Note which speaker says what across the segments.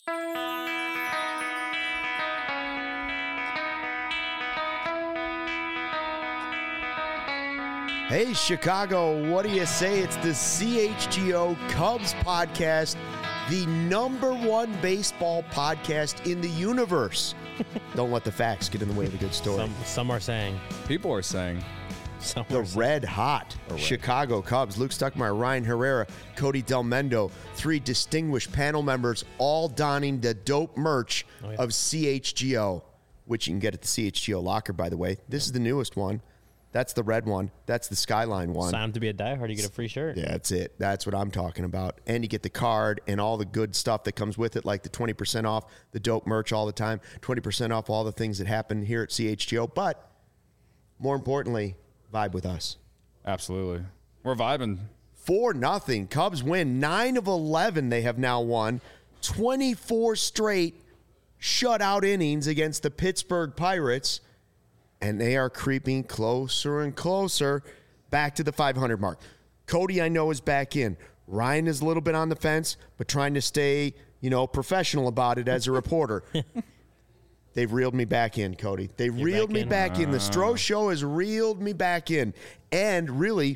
Speaker 1: Hey, Chicago, what do you say? It's the CHGO Cubs podcast, the #1 baseball podcast in the universe. Don't let the facts get in the way of a good story.
Speaker 2: Some are saying.
Speaker 3: People are saying.
Speaker 1: The red hot Chicago Cubs, Luke Stuckmeyer, Ryan Herrera, Cody Delmendo, 3 distinguished panel members, all donning the dope merch of CHGO, which you can get at the CHGO locker, by the way. This is the newest one. That's the red one. That's the Skyline one.
Speaker 2: Sign up to be a diehard, you get a free shirt.
Speaker 1: Yeah, that's it. That's what I'm talking about. And you get the card and all the good stuff that comes with it, like the 20% off, the dope merch all the time, 20% off all the things that happen here at CHGO. But more importantly, vibe with us.
Speaker 3: Absolutely. We're vibing.
Speaker 1: 4-0. Cubs win. 9 of 11 they have now won. 24 straight shutout innings against the Pittsburgh Pirates. And they are creeping closer and closer back to the 500 mark. Cody, I know, is back in. Ryan is a little bit on the fence, but trying to stay, professional about it as a reporter. They've reeled me back in, Cody. They reeled me back in. The Stroh Show has reeled me back in. And really,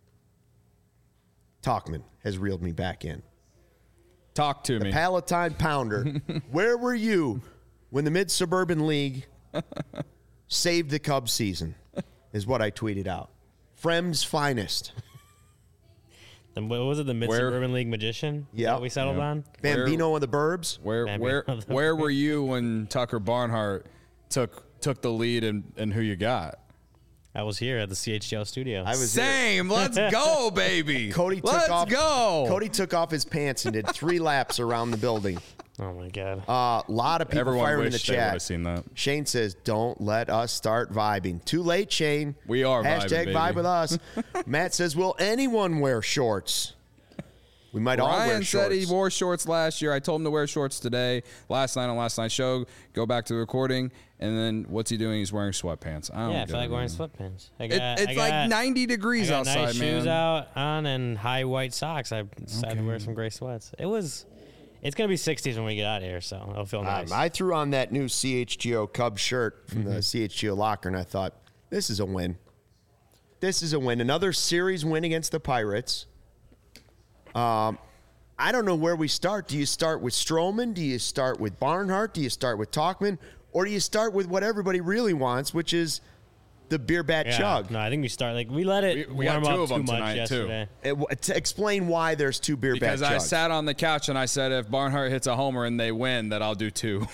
Speaker 1: Talkman has reeled me back in.
Speaker 3: Talk to me.
Speaker 1: The Palatine Pounder. Where were you when the Mid-Suburban League saved the Cubs season, is what I tweeted out. Frem's finest.
Speaker 2: What was it, the Mid-Suburban League Magician?
Speaker 1: Yeah.
Speaker 2: We settled on?
Speaker 1: Bambino of the Burbs.
Speaker 3: Where were you when Tucker Barnhart took the lead and who you got?
Speaker 2: I was here at the CHGO studio.
Speaker 1: I was
Speaker 3: Same.
Speaker 1: There.
Speaker 3: Let's go, baby.
Speaker 1: Cody took off his pants and did 3 laps around the building.
Speaker 2: Oh, my God.
Speaker 1: A lot of people
Speaker 3: Everyone
Speaker 1: firing in the
Speaker 3: wished they would
Speaker 1: chat.
Speaker 3: have seen that.
Speaker 1: Shane says, don't let us start vibing. Too late, Shane.
Speaker 3: We are vibing,
Speaker 1: Hashtag vibe with us. Matt says, will anyone wear shorts? We might all wear shorts.
Speaker 3: Ryan said he wore shorts last year. I told him to wear shorts today. Last night on last night's show, go back to the recording, and then what's he doing? He's wearing sweatpants.
Speaker 2: I feel like wearing sweatpants.
Speaker 3: It's like 90 degrees outside,
Speaker 2: nice
Speaker 3: man.
Speaker 2: Shoes on and high white socks. I decided to wear some gray sweats. It's going to be 60s when we get out of here, so it'll feel nice.
Speaker 1: I threw on that new CHGO Cubs shirt from the CHGO locker, and I thought, this is a win. This is a win. Another series win against the Pirates. I don't know where we start. Do you start with Stroman? Do you start with Barnhart? Do you start with Talkman? Or do you start with what everybody really wants, which is the beer bat chug?
Speaker 2: No, I think we start we let it
Speaker 3: we
Speaker 2: warm
Speaker 3: got 2
Speaker 2: up
Speaker 3: of them
Speaker 2: too much
Speaker 3: tonight,
Speaker 2: yesterday.
Speaker 1: To explain why there's 2 beer bat chugs.
Speaker 3: Because I sat on the couch and I said, if Barnhart hits a homer and they win, that I'll do 2.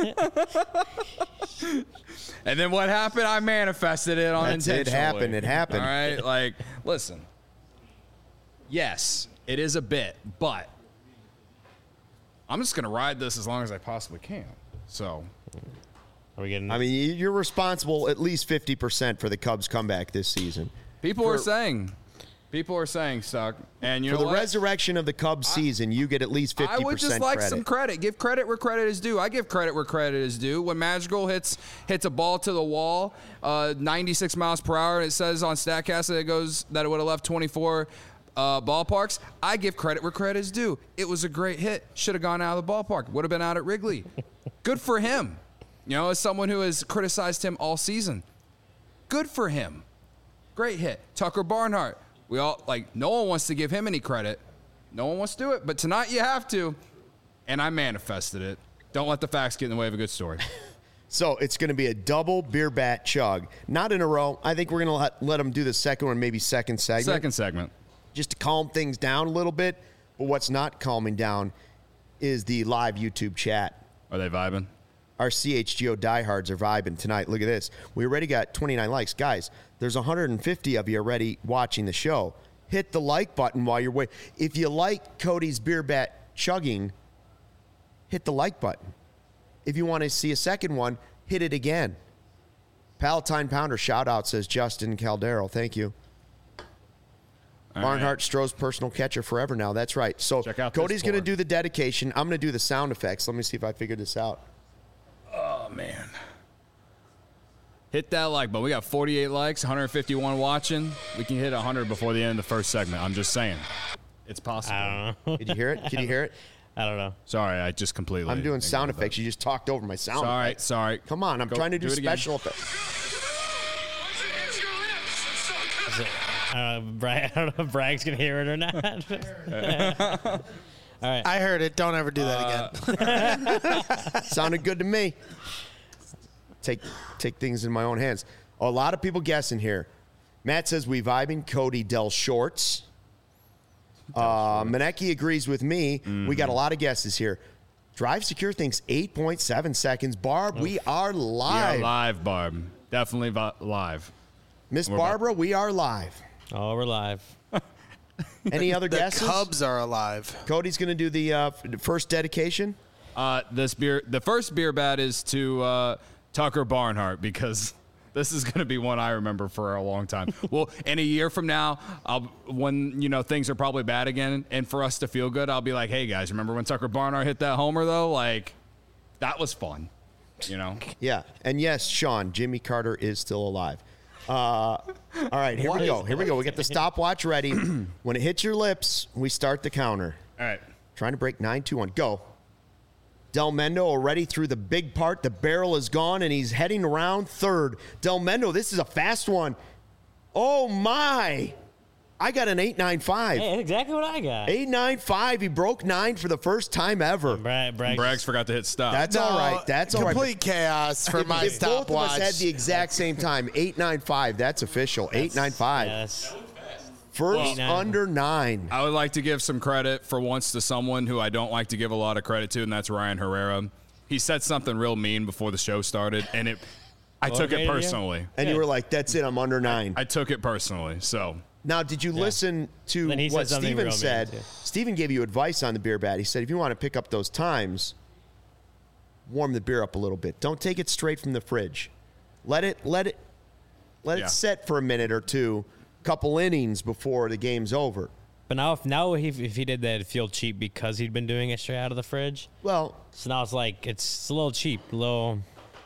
Speaker 3: And then what happened? I manifested it unintentionally.
Speaker 1: It happened.
Speaker 3: All right? Listen. Yes, it is a bit, but I'm just going to ride this as long as I possibly can. So,
Speaker 2: are we getting?
Speaker 1: I mean, you're responsible at least 50% for the Cubs' comeback this season.
Speaker 3: People are saying, Stuck, and you know
Speaker 1: for the resurrection of the Cubs season, you get at least 50%
Speaker 3: I would just like
Speaker 1: credit.
Speaker 3: some credit. Give credit where credit is due. I give credit where credit is due. When Madrigal hits a ball to the wall, 96 miles per hour, and it says on Statcast that it would have left 24 ballparks, I give credit where credit is due. It was a great hit. Should have gone out of the ballpark. Would have been out at Wrigley. Good for him. As someone who has criticized him all season. Good for him. Great hit. Tucker Barnhart. We all, no one wants to give him any credit. No one wants to do it. But tonight you have to. And I manifested it. Don't let the facts get in the way of a good story.
Speaker 1: So it's going to be a double beer bat chug. Not in a row. I think we're going to let them do the second one, maybe second segment.
Speaker 3: Second segment.
Speaker 1: Just to calm things down a little bit. But what's not calming down is the live YouTube chat.
Speaker 3: Are they vibing?
Speaker 1: Our CHGO diehards are vibing tonight. Look at this. We already got 29 likes. Guys, there's 150 of you already watching the show. Hit the like button while you're waiting. If you like Cody's beer bat chugging, hit the like button. If you want to see a second one, hit it again. Palatine Pounder shout out, says Justin Caldero. Thank you. Barnhart, Stroh's personal catcher forever now. That's right. So Cody's going to do the dedication. I'm going to do the sound effects. Let me see if I figure this out.
Speaker 3: Oh, man. Hit that like button. We got 48 likes, 151 watching. We can hit 100 before the end of the first segment. I'm just saying. It's possible.
Speaker 2: I don't know.
Speaker 1: Did you hear it? Can you hear it?
Speaker 2: I don't know.
Speaker 4: Sorry, I just completely.
Speaker 1: I'm doing sound
Speaker 4: ignored
Speaker 1: effects. You just talked over my sound
Speaker 4: Sorry,
Speaker 1: effects.
Speaker 4: sorry.
Speaker 1: Come on, I'm
Speaker 4: Go-
Speaker 1: trying to do
Speaker 4: do it again.
Speaker 1: special effects.
Speaker 2: I don't know if Bragg's gonna hear it or not. All right.
Speaker 5: I heard it. Don't ever do that again.
Speaker 1: Sounded good to me. Take things in my own hands. A lot of people guessing here. Matt says we vibing. Cody Del Shorts. Maneki agrees with me. We got a lot of guesses here. Drive Secure thinks 8.7 seconds. Barb, we are
Speaker 4: We are
Speaker 1: live.
Speaker 4: live, Barb. Definitely live.
Speaker 1: Miss
Speaker 4: We're
Speaker 1: Barbara, we are live.
Speaker 2: Oh, we're live.
Speaker 1: Any other
Speaker 5: The
Speaker 1: guesses?
Speaker 5: Cubs are alive.
Speaker 1: Cody's going to do the first dedication.
Speaker 4: The first beer bat is to Tucker Barnhart because this is going to be one I remember for a long time. Well, in a year from now, when things are probably bad again, and for us to feel good, I'll be like, "Hey guys, remember when Tucker Barnhart hit that homer though? Like, that was fun."
Speaker 1: Yeah. And yes, Sean, Jimmy Carter is still alive. All right, here we go. Here we go. We get the stopwatch ready. When it hits your lips, we start the counter.
Speaker 4: All right.
Speaker 1: Trying to break 9-2-1. Go. Del Mendo already through the big part. The barrel is gone, and he's heading around third. Del Mendo, this is a fast one. Oh, my. I got an 8.95.
Speaker 2: Hey, that's exactly what I got.
Speaker 1: 8.95. He broke 9 for the first time ever.
Speaker 4: Braggs forgot to hit stop.
Speaker 1: That's all right. That's all right.
Speaker 5: Complete chaos for my
Speaker 1: If both of us
Speaker 5: stopwatch.
Speaker 1: had the exact same time, 8.95. That's official. 8.95.
Speaker 2: Yes.
Speaker 1: First
Speaker 2: Well,
Speaker 1: under 9.
Speaker 4: I would like to give some credit for once to someone who I don't like to give a lot of credit to, and that's Ryan Herrera. He said something real mean before the show started, and I took it
Speaker 2: Motivated you?
Speaker 4: personally.
Speaker 1: And you were like, that's it. I'm under 9.
Speaker 4: I took it personally. So
Speaker 1: Now, did you listen to
Speaker 2: Then he
Speaker 1: what
Speaker 2: said something
Speaker 1: Steven
Speaker 2: real mean,
Speaker 1: said?
Speaker 2: too.
Speaker 1: Steven gave you advice on the beer bat. He said, if you want to pick up those times, warm the beer up a little bit. Don't take it straight from the fridge. Let it
Speaker 4: Yeah.
Speaker 1: set for a minute or two, couple innings before the game's over.
Speaker 2: But now if he did that, it'd feel cheap because he'd been doing it straight out of the fridge.
Speaker 1: Well,
Speaker 2: So now it's like it's a little cheap, little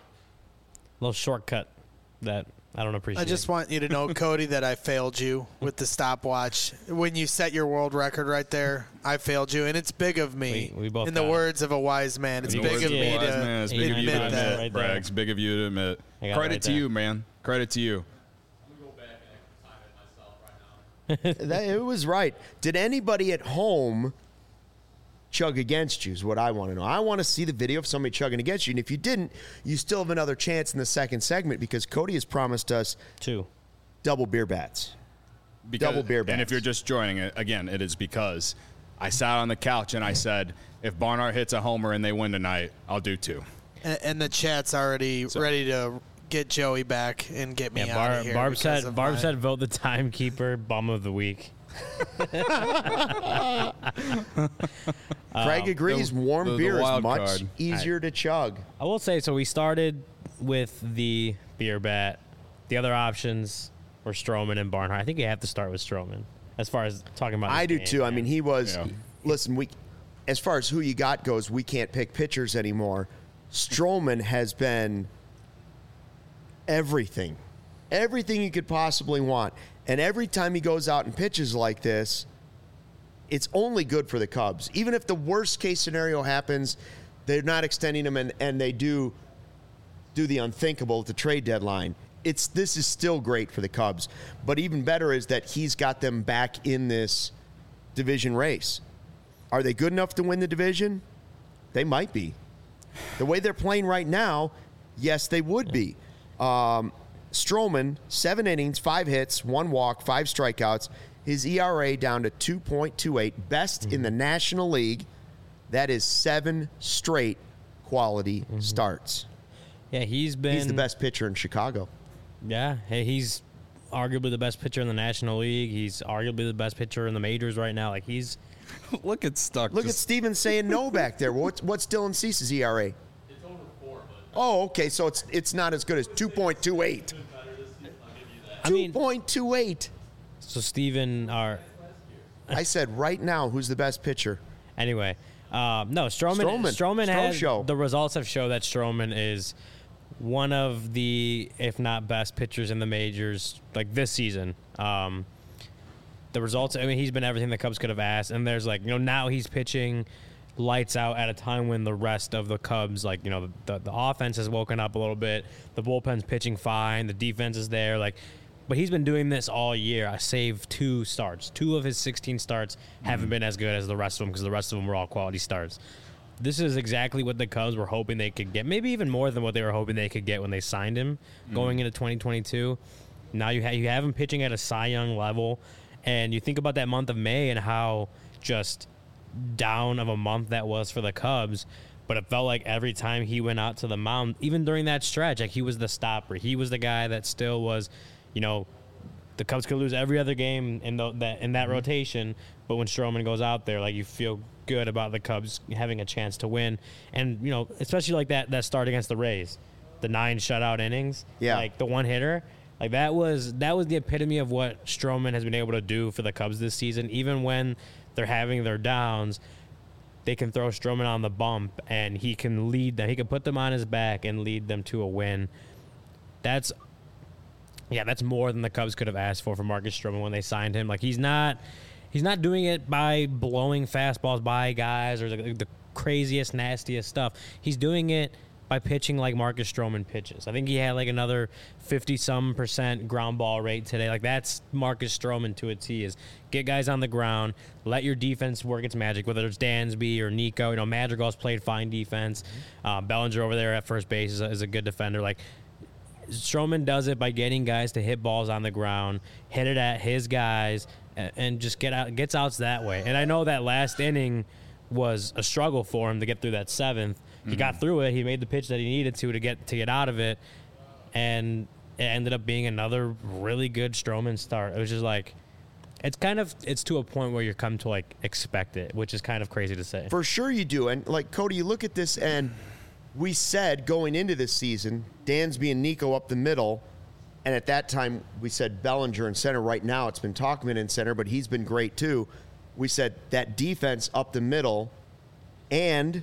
Speaker 2: shortcut that I don't appreciate.
Speaker 5: I just want you to know, Cody, that I failed you with the stopwatch. When you set your world record right there, I failed you, and it's big of me.
Speaker 2: We both
Speaker 5: in the
Speaker 2: got it.
Speaker 5: words of a wise man, it's
Speaker 2: In
Speaker 5: big
Speaker 2: the
Speaker 5: of
Speaker 2: words
Speaker 5: me
Speaker 2: of a wise
Speaker 4: man, it's big of you to
Speaker 5: admit that.
Speaker 4: admit,
Speaker 2: Right there.
Speaker 4: Braggs. Big of you to admit.
Speaker 2: I got it
Speaker 4: Credit
Speaker 2: right
Speaker 4: to
Speaker 2: there.
Speaker 4: you, man. Credit to you.
Speaker 1: it was right. Did anybody at home chug against you is what I want to know. I want to see the video of somebody chugging against you. And if you didn't, you still have another chance in the second segment because Cody has promised us
Speaker 2: 2.
Speaker 1: double beer bats.
Speaker 4: Because,
Speaker 1: Double beer
Speaker 4: And
Speaker 1: bats.
Speaker 4: if you're just joining it, again, it is because I sat on the couch and I said, if Barnhart hits a homer and they win tonight, I'll do 2.
Speaker 5: And the chat's already ready to get Joey back and get me out of here.
Speaker 2: Barb
Speaker 5: because
Speaker 2: said
Speaker 5: of
Speaker 2: Barb
Speaker 5: my-
Speaker 2: said vote the timekeeper bum of the week.
Speaker 1: Craig agrees. Warm
Speaker 4: the
Speaker 1: beer is
Speaker 4: wild
Speaker 1: much
Speaker 4: card.
Speaker 1: easier to chug.
Speaker 2: I will say so. We started with the beer bat. The other options were Stroman and Barnhart. I think you have to start with Stroman as far as talking about.
Speaker 1: I
Speaker 2: this
Speaker 1: do
Speaker 2: game,
Speaker 1: too. I
Speaker 2: man.
Speaker 1: mean, he was.
Speaker 4: Yeah.
Speaker 1: Listen, as far as who you got goes, we can't pick pitchers anymore. Stroman has been everything you could possibly want. And every time he goes out and pitches like this, it's only good for the Cubs. Even if the worst case scenario happens, they're not extending him and they do the unthinkable at the trade deadline. This is still great for the Cubs. But even better is that he's got them back in this division race. Are they good enough to win the division? They might be. The way they're playing right now, yes, they would be. Stroman, 7 innings, 5 hits, 1 walk, 5 strikeouts. His ERA down to 2.28, best in the National League. That is 7 straight quality starts.
Speaker 2: Yeah, he's been.
Speaker 1: He's the best pitcher in Chicago.
Speaker 2: Yeah, hey, he's arguably the best pitcher in the National League. He's arguably the best pitcher in the majors right now. Like he's.
Speaker 4: Look at Stuck.
Speaker 1: Look at Steven saying no back there. What's Dylan Cease's ERA? It's over 4. Oh, okay, so it's not as good as 2.28.
Speaker 2: I mean,
Speaker 1: 2.28.
Speaker 2: so Steven are.
Speaker 1: I said right now, who's the best pitcher?
Speaker 2: Anyway, no, Stroman
Speaker 1: Stro
Speaker 2: has
Speaker 1: show.
Speaker 2: the results have shown that Stroman is one of the, if not best pitchers in the majors like this season. The results, I mean, he's been everything the Cubs could have asked, and there's now he's pitching lights out at a time when the rest of the Cubs, like, you know, the offense has woken up a little bit. The bullpen's pitching fine. The defense is there. Like, but he's been doing this all year. I saved 2 starts. 2 of his 16 starts haven't been as good as the rest of them because the rest of them were all quality starts. This is exactly what the Cubs were hoping they could get. Maybe even more than what they were hoping they could get when they signed him going into 2022. Now you have him pitching at a Cy Young level. And you think about that month of May and how just down of a month that was for the Cubs. But it felt like every time he went out to the mound, even during that stretch, like he was the stopper. He was the guy that still was, you know, the Cubs could lose every other game in that rotation. But when Stroman goes out there, like, you feel good about the Cubs having a chance to win. And, you know, especially like that start against the Rays, the 9 shutout innings, like the one hitter. Like, that was the epitome of what Stroman has been able to do for the Cubs this season. Even when they're having their downs, they can throw Stroman on the bump, and he can lead them. He can put them on his back and lead them to a win. That's more than the Cubs could have asked for Marcus Stroman when they signed him. Like, he's not doing it by blowing fastballs by guys or the craziest, nastiest stuff. He's doing it by pitching like Marcus Stroman pitches. I think he had like another 50-some% ground ball rate today. Like, that's Marcus Stroman to a T, is get guys on the ground, let your defense work its magic, whether it's Dansby or Nico. You know, Madrigal's played fine defense. Bellinger over there at first base is a good defender. Like, Stroman does it by getting guys to hit balls on the ground, hit it at his guys, and just gets outs that way. And I know that last inning was a struggle for him to get through that 7th. He got through it. He made the pitch that he needed to get out of it, and it ended up being another really good Stroman start. It was just like, it's to a point where you come to like expect it, which is kind of crazy to say.
Speaker 1: For sure you do. And like, Cody, you look at this, and we said going into this season, Dansby and Nico up the middle, and at that time we said Bellinger in center. Right now it's been Tauchman in center, but he's been great too. We said that defense up the middle, and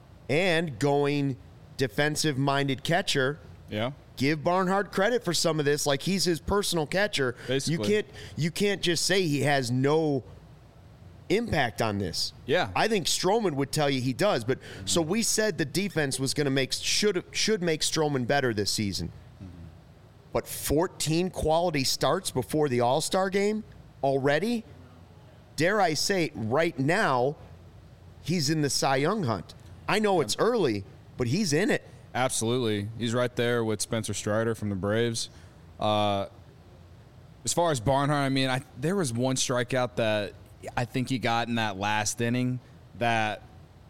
Speaker 1: going defensive-minded catcher.
Speaker 4: Yeah.
Speaker 1: Give Barnhart credit for some of this. Like, he's his personal catcher.
Speaker 4: Basically.
Speaker 1: You can't just say he has no impact on this.
Speaker 4: Yeah.
Speaker 1: I think Stroman would tell you he does. But so we said the defense was going to should make Stroman better this season. But 14 quality starts before the All-Star game already? Dare I say, right now, he's in the Cy Young hunt. I know it's early, but he's in it.
Speaker 4: Absolutely. He's right there with Spencer Strider from the Braves. As far as Barnhart, I mean, there was one strikeout that I think he got in that last inning that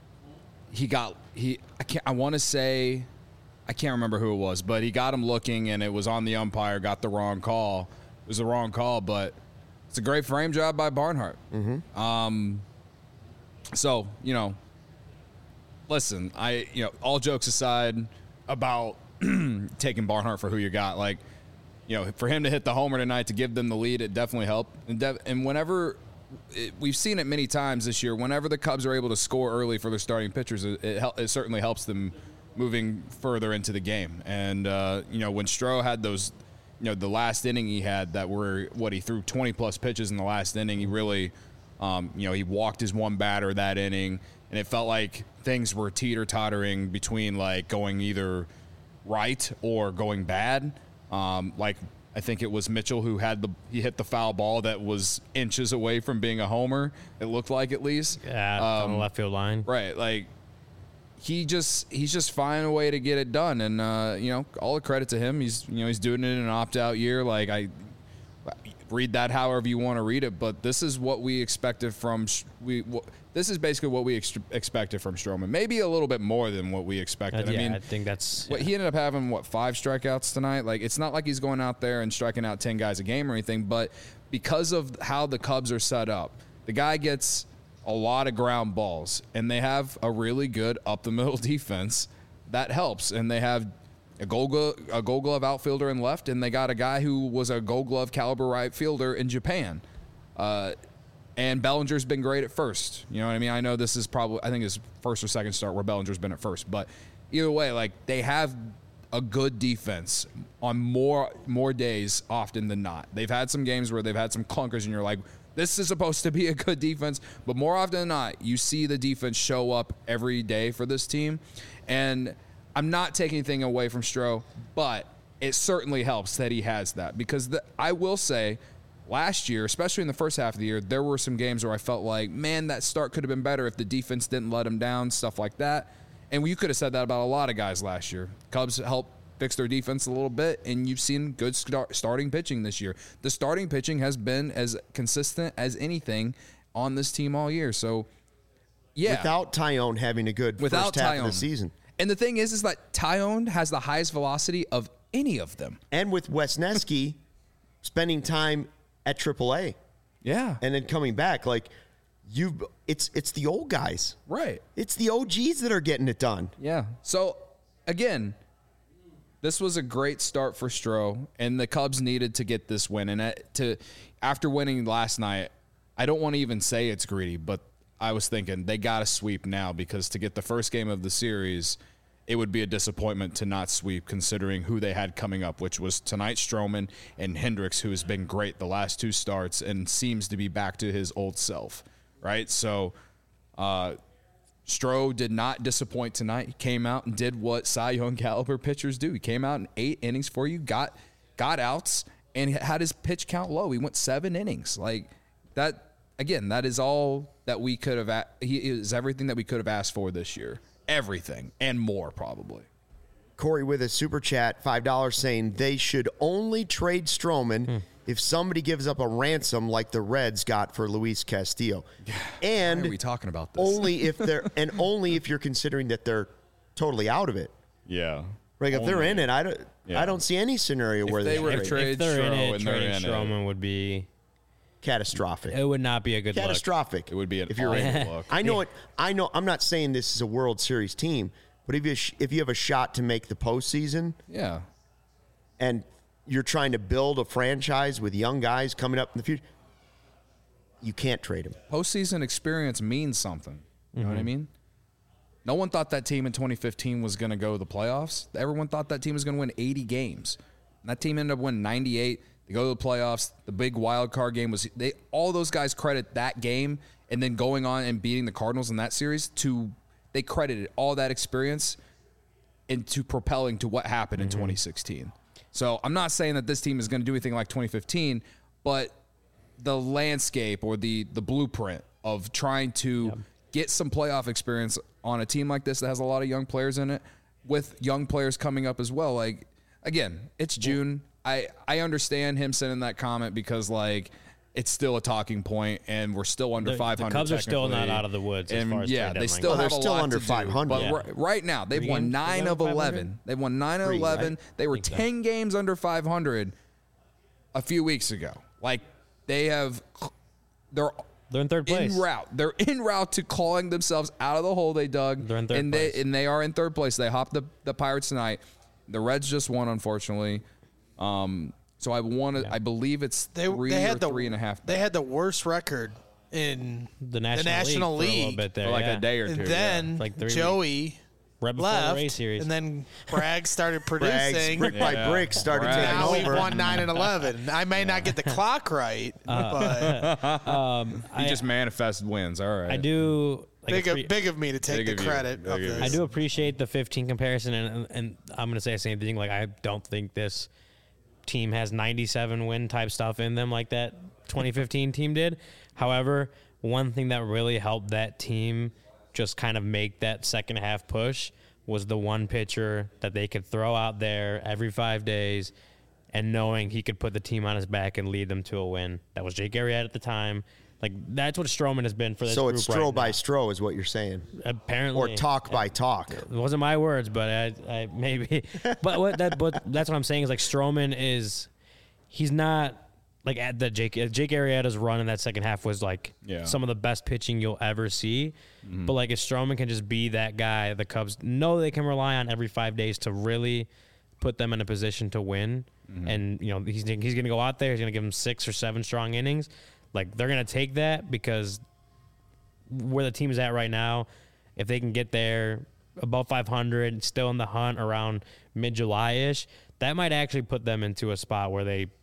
Speaker 4: I can't remember who it was, but he got him looking, and it was on the umpire, got the wrong call. It was the wrong call, but it's a great frame job by Barnhart. So, you know, listen, all jokes aside about taking Barnhart for who you got, like, you know, for him to hit the homer tonight to give them the lead, it definitely helped. And whenever we've seen it many times this year, whenever the Cubs are able to score early for their starting pitchers, it certainly helps them moving further into the game. And, you know, when Stroh had those, you know, the last inning he had that were, he threw 20-plus pitches in the last inning, he really, you know, he walked his one batter that inning, and it felt like things were teeter-tottering between, like, going either right or going bad. Like, I think it was Mitchell who he hit the foul ball that was inches away from being a homer. It looked like, at least.
Speaker 2: Yeah, on the left field line.
Speaker 4: Right. Like, he's just finding a way to get it done, and you know, all the credit to him. He's doing it in an opt-out year. Like, I read that however you want to read it, but this is what we expected from this is basically what we expected from Stroman. Maybe a little bit more than what we expected.
Speaker 2: Yeah,
Speaker 4: I mean,
Speaker 2: I think that's
Speaker 4: he ended up having 5 strikeouts tonight. Like, it's not like he's going out there and striking out 10 guys a game or anything, but because of how the Cubs are set up, the guy gets a lot of ground balls, and they have a really good up-the-middle defense. That helps, and they have a Gold Glove outfielder in left, and they got a guy who was a Gold Glove caliber right fielder in Japan. And Bellinger's been great at first. You know what I mean? I know this is I think his first or second start where Bellinger's been at first, but either way, like, they have a good defense on more days often than not. They've had some games where they've had some clunkers, and you're like,
Speaker 3: This is supposed to be a good defense, but more often than not, you see the defense show up every day for this team. And I'm not taking anything away from Stroh, but it certainly helps that he has that. Because I will say, last year, especially in the first half of the year, there were some games where I felt like, man, that start could have been better if the defense didn't let him down, stuff like that. And you could have said that about a lot of guys last year. Cubs helped fix their defense a little bit, and you've seen good starting pitching this year. The starting pitching has been as consistent as anything on this team all year. So, yeah.
Speaker 1: Without Tyone having a good first half of the season.
Speaker 3: And the thing is that Tyone has the highest velocity of any of them.
Speaker 1: And with Wesneski spending time at AAA.
Speaker 3: Yeah.
Speaker 1: And then coming back, like, it's the old guys.
Speaker 3: Right.
Speaker 1: It's the OGs that are getting it done.
Speaker 3: Yeah. So, again, this was a great start for Stroh, and the Cubs needed to get this win. And after winning last night, I don't want to even say it's greedy, but I was thinking they got to sweep now, because to get the first game of the series, it would be a disappointment to not sweep, considering who they had coming up, which was tonight Stroman and Hendricks, who has been great the last two starts and seems to be back to his old self, right? So Stroh did not disappoint tonight. He came out and did what Cy Young caliber pitchers do. He came out in 8 innings for you, got outs, and had his pitch count low. He went 7 innings. Like that, again, that is all that we could have. He is everything that we could have asked for this year. Everything and more, probably.
Speaker 1: Corey with a super chat, $5, saying they should only trade Stroman if somebody gives up a ransom like the Reds got for Luis Castillo. And
Speaker 3: Why are we talking about this?
Speaker 1: only if you're considering that they're totally out of it.
Speaker 4: Yeah.
Speaker 1: Like if they're in it, I don't see any scenario where
Speaker 3: they were
Speaker 1: trade.
Speaker 3: trade
Speaker 2: If they're in
Speaker 3: Stroh
Speaker 2: it,
Speaker 3: and they're
Speaker 2: trading
Speaker 3: in it.
Speaker 2: Stroman would be
Speaker 1: Catastrophic.
Speaker 2: it would not be a good look.
Speaker 1: Catastrophic.
Speaker 4: It would be an
Speaker 1: if you're in it.
Speaker 4: awful look.
Speaker 1: I know it. I know. I'm not saying this is a World Series team, but if you have a shot to make the postseason,
Speaker 3: Yeah.
Speaker 1: and you're trying to build a franchise with young guys coming up in the future, you can't trade them.
Speaker 3: Postseason experience means something. You know what I mean? No one thought that team in 2015 was going to go to the playoffs. Everyone thought that team was going to win 80 games. And that team ended up winning 98. They go to the playoffs. The big wild card game was all those guys credit that game and then going on and beating the Cardinals in that series they credited all that experience into propelling to what happened in 2016. So I'm not saying that this team is going to do anything like 2015, but the landscape or the blueprint of trying to get some playoff experience on a team like this that has a lot of young players in it, with young players coming up as well. Like, again, it's June. I understand him sending that comment because, like, it's still a talking point, and we're still under 500.
Speaker 2: The Cubs are still not
Speaker 3: technically.
Speaker 2: out of the woods as
Speaker 3: And
Speaker 2: far as
Speaker 3: yeah,
Speaker 2: trade
Speaker 3: they
Speaker 2: deadline
Speaker 3: still
Speaker 2: goes.
Speaker 1: Well,
Speaker 3: have
Speaker 1: they're
Speaker 3: a
Speaker 1: still
Speaker 3: lot
Speaker 1: under
Speaker 3: to do.
Speaker 1: 500.
Speaker 3: But
Speaker 2: Yeah.
Speaker 3: right now, they've
Speaker 2: Three
Speaker 3: won
Speaker 2: games
Speaker 3: 9
Speaker 2: under
Speaker 3: of
Speaker 2: 500?
Speaker 3: 11. They've won 9 of
Speaker 1: Three,
Speaker 3: 11.
Speaker 1: right?
Speaker 3: They were
Speaker 2: Think so.
Speaker 3: 10 games under 500 a few weeks ago. Like, they're
Speaker 2: They're in third place.
Speaker 3: en route. They're en route to clawing themselves out of the hole they dug.
Speaker 2: They're in third
Speaker 3: and
Speaker 2: place.
Speaker 3: They are in third place. They hopped the Pirates tonight. The Reds just won, unfortunately. So I believe it's
Speaker 5: They
Speaker 3: 3
Speaker 5: had
Speaker 3: or 3.5.
Speaker 5: They had the worst record in
Speaker 2: the National
Speaker 5: League.
Speaker 2: League for a little bit there,
Speaker 4: For like
Speaker 2: yeah.
Speaker 4: a day or two.
Speaker 5: and then
Speaker 2: Like 3
Speaker 5: Joey
Speaker 2: right before the
Speaker 5: left,
Speaker 2: race series.
Speaker 5: and then Bragg started
Speaker 1: Brags,
Speaker 5: producing.
Speaker 1: brick by
Speaker 4: Yeah.
Speaker 1: brick, started
Speaker 4: Brags.
Speaker 1: taking
Speaker 5: Now we've
Speaker 1: over.
Speaker 5: won 9 and 11. I may not get the clock right, but
Speaker 4: He just manifested wins. All right.
Speaker 2: I do. Like
Speaker 5: big of me to take
Speaker 4: Big
Speaker 5: the
Speaker 4: of you.
Speaker 5: credit
Speaker 4: Big
Speaker 5: of
Speaker 4: of you.
Speaker 5: this.
Speaker 2: I do appreciate the 15 comparison, and I'm going to say the same thing. Like, I don't think this team has 97 win type stuff in them like that 2015 team did. However, one thing that really helped that team just kind of make that second half push was the one pitcher that they could throw out there every 5 days and knowing he could put the team on his back and lead them to a win. That was Jake Arrieta at the time. Like, that's what Stroman has been for this
Speaker 1: So
Speaker 2: group
Speaker 1: it's
Speaker 2: right
Speaker 1: Stroh by
Speaker 2: now.
Speaker 1: Stroh is what you're saying,
Speaker 2: Apparently.
Speaker 1: or talk by talk.
Speaker 2: It wasn't my words, but I maybe. but that's what I'm saying is, like, Stroman he's not like at the Jake Arrieta's run in that second half was like some of the best pitching you'll ever see. But like, if Stroman can just be that guy, the Cubs know they can rely on every 5 days to really put them in a position to win. And you know, he's going to go out there, he's going to give them 6 or 7 strong innings. Like, they're going to take that, because where the team is at right now, if they can get there above 500, still in the hunt around mid-July-ish, that might actually put them into a spot where they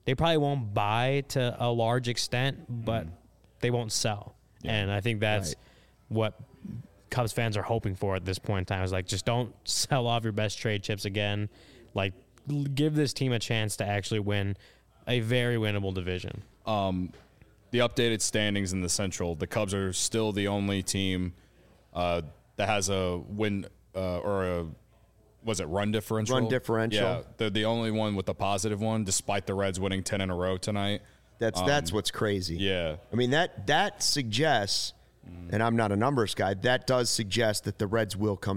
Speaker 2: they probably won't buy to a large extent, but they won't sell. And I think that's what Cubs fans are hoping for at this point in time, is like, just don't sell off your best trade chips again. Like, give this team a chance to actually win a very winnable division.
Speaker 4: The updated standings in the Central, the Cubs are still the only team that has a win or a run differential?
Speaker 1: Run differential.
Speaker 4: Yeah, they're the only one with a positive one, despite the Reds winning 10 in a row tonight.
Speaker 1: That's what's crazy.
Speaker 4: Yeah.
Speaker 1: I mean, that suggests, and I'm not a numbers guy, that does suggest that the Reds will come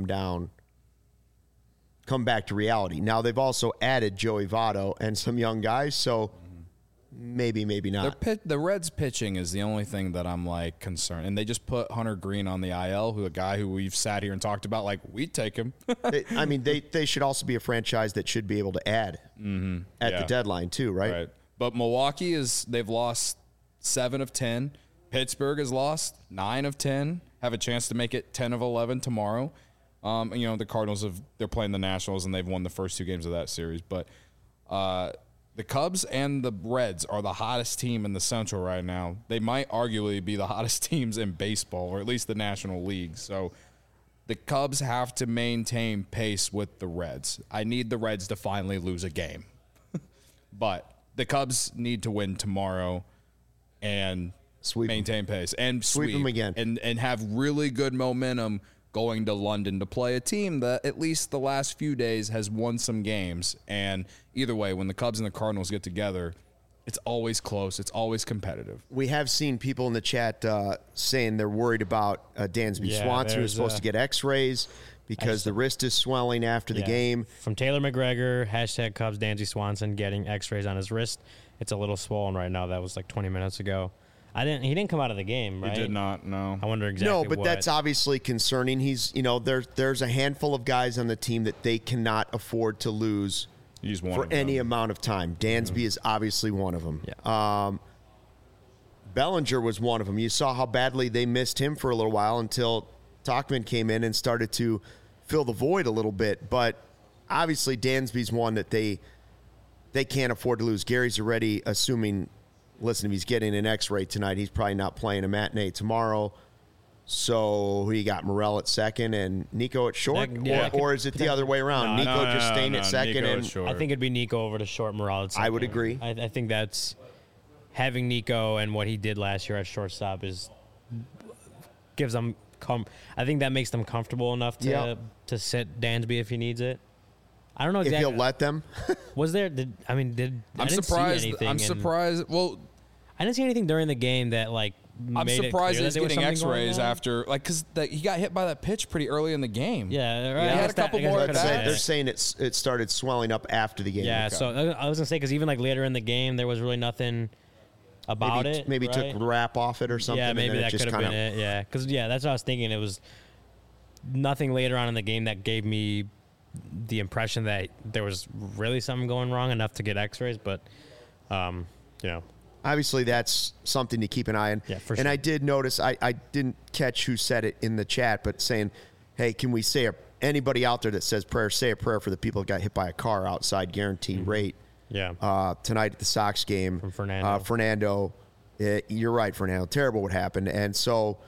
Speaker 1: back to reality. Now, they've also added Joey Votto and some young guys, so maybe not.
Speaker 4: The Reds pitching is the only thing that I'm like concerned. And they just put Hunter Green on the IL, a guy who we've sat here and talked about, like, we'd take him.
Speaker 1: They should also be a franchise that should be able to add at the deadline too, right?
Speaker 4: Right. But Milwaukee they've lost 7 of 10. Pittsburgh has lost 9 of 10. Have a chance to make it 10 of 11 tomorrow. The Cardinals they're playing the Nationals and they've won the first 2 games of that series. But the Cubs and the Reds are the hottest team in the Central right now. They might arguably be the hottest teams in baseball, or at least the National League. So the Cubs have to maintain pace with the Reds. I need the Reds to finally lose a game. But the Cubs need to win tomorrow and maintain pace. And
Speaker 1: sweep them again.
Speaker 4: And have really good momentum going to London to play a team that at least the last few days has won some games. And either way, when the Cubs and the Cardinals get together, it's always close. It's always competitive.
Speaker 1: We have seen people in the chat saying they're worried about Dansby Swanson, who's supposed to get x-rays because the wrist is swelling after the game.
Speaker 2: From Taylor McGregor, # Cubs, Dansby Swanson getting x-rays on his wrist. It's a little swollen right now. That was like 20 minutes ago. He didn't come out of the game, right?
Speaker 4: He did not, no.
Speaker 2: I wonder exactly
Speaker 1: No, but that's obviously concerning. He's, there's a handful of guys on the team that they cannot afford to lose for any amount of time. Dansby is obviously one of them.
Speaker 2: Yeah.
Speaker 1: Bellinger was one of them. You saw how badly they missed him for a little while until Tauchman came in and started to fill the void a little bit. But obviously Dansby's one that they can't afford to lose. Gary's already assuming, listen, if he's getting an x-ray tonight, he's probably not playing a matinee tomorrow. So who you got, Morel at second and Nico at short? Or is it the other way around? Nico just staying at second?
Speaker 4: Nico
Speaker 1: and
Speaker 4: short.
Speaker 2: I think it'd be Nico over to short, Morel at second.
Speaker 1: I would agree.
Speaker 2: I think that's having Nico and what he did last year at shortstop gives them I think that makes them comfortable enough to sit Dansby if he needs it. I don't know exactly.
Speaker 1: If he'll let them.
Speaker 2: Was there?
Speaker 4: I'm surprised. I'm surprised. Well,
Speaker 2: I didn't see anything during the game that
Speaker 4: I'm surprised he's getting X-rays after, because he got hit by that pitch pretty early in the game.
Speaker 2: Yeah, right.
Speaker 4: He had a couple more at bats.
Speaker 1: They're saying it started swelling up after the game.
Speaker 2: Yeah, so I was gonna say, because even later in the game, there was really nothing about it.
Speaker 1: Maybe
Speaker 2: right?
Speaker 1: took the wrap off it or something.
Speaker 2: Yeah, maybe
Speaker 1: and
Speaker 2: that could have been it. Yeah, because that's what I was thinking. It was nothing later on in the game that gave me the impression that there was really something going wrong enough to get X-rays, but
Speaker 1: obviously that's something to keep an eye on.
Speaker 2: Yeah, for
Speaker 1: and
Speaker 2: sure.
Speaker 1: I did notice, I didn't catch who said it in the chat, but saying, hey, can we say anybody out there that says prayer, say a prayer for the people that got hit by a car outside, guaranteed rate.
Speaker 2: Yeah.
Speaker 1: Tonight at the Sox game.
Speaker 2: From Fernando.
Speaker 1: Fernando, you're right, Fernando. Terrible what happened. And so,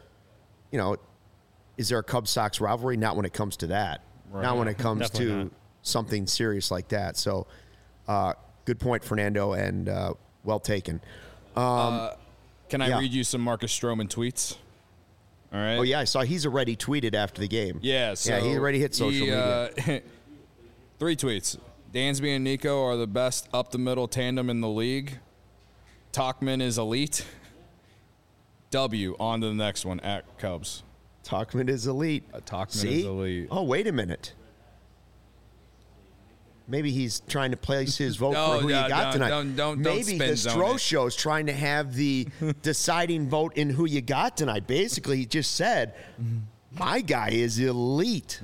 Speaker 1: is there a Cubs-Sox rivalry? Not when it comes to that. Right. Not when it comes
Speaker 2: Definitely
Speaker 1: to
Speaker 2: not.
Speaker 1: something serious like that. So, good point, Fernando, and well taken.
Speaker 4: Can I read you some Marcus Stroman tweets? All right.
Speaker 1: Oh, yeah, I saw he's already tweeted after the game.
Speaker 4: Yeah, so
Speaker 1: he already hit social media.
Speaker 4: 3 tweets. Dansby and Nico are the best up-the-middle tandem in the league. Tauchman is elite. W, on to the next one, at Cubs.
Speaker 1: Tauchman is elite.
Speaker 4: Tauchman is elite.
Speaker 1: Oh, wait a minute. Maybe he's trying to place his vote for who you got tonight.
Speaker 4: Don't
Speaker 1: Maybe
Speaker 4: spin
Speaker 1: the
Speaker 4: zone
Speaker 1: Stro
Speaker 4: it.
Speaker 1: Show's trying to have the deciding vote in who you got tonight. Basically, he just said, my guy is elite.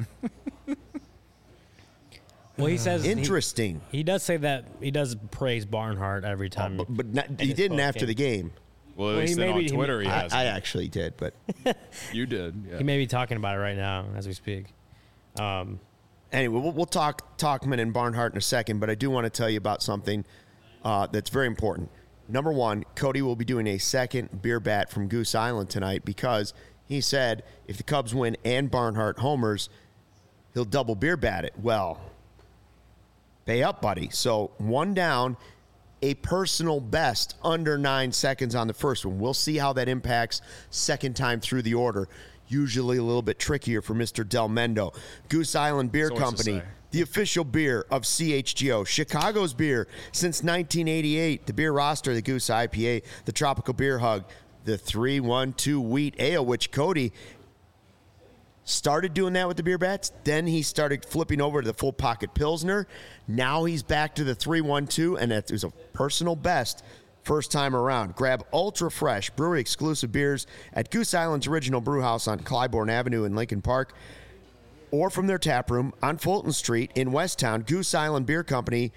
Speaker 2: Well, he says
Speaker 1: interesting.
Speaker 2: He does say that he does praise Barnhart every time.
Speaker 1: But he didn't after the game.
Speaker 4: Well, at least on Twitter he has.
Speaker 1: I actually did, but
Speaker 4: you did. Yeah.
Speaker 2: He may be talking about it right now as we speak.
Speaker 1: Anyway, we'll talk Tauchman and Barnhart in a second, but I do want to tell you about something. that's very important. Number one, Cody will be doing a second beer bat from Goose Island tonight because he said if the Cubs win and Barnhart homers, he'll double beer bat it. Well, pay up, buddy. So 1 down, a personal best under 9 seconds on the first one. We'll see how that impacts second time through the order. Usually a little bit trickier for Mr. Del Mendo. Goose Island Beer Company, the official beer of CHGO. Chicago's beer since 1988. The beer roster, the Goose IPA, the Tropical Beer Hug, the 3-1-2 Wheat Ale, which Cody started doing that with the beer bats. Then he started flipping over to the full pocket Pilsner. Now he's back to the 3-1-2, and it was a personal best first time around. Grab ultra fresh brewery exclusive beers at Goose Island's original brew house on Clybourne Avenue in Lincoln Park, or from their tap room on Fulton Street in Westtown. Goose Island Beer Company,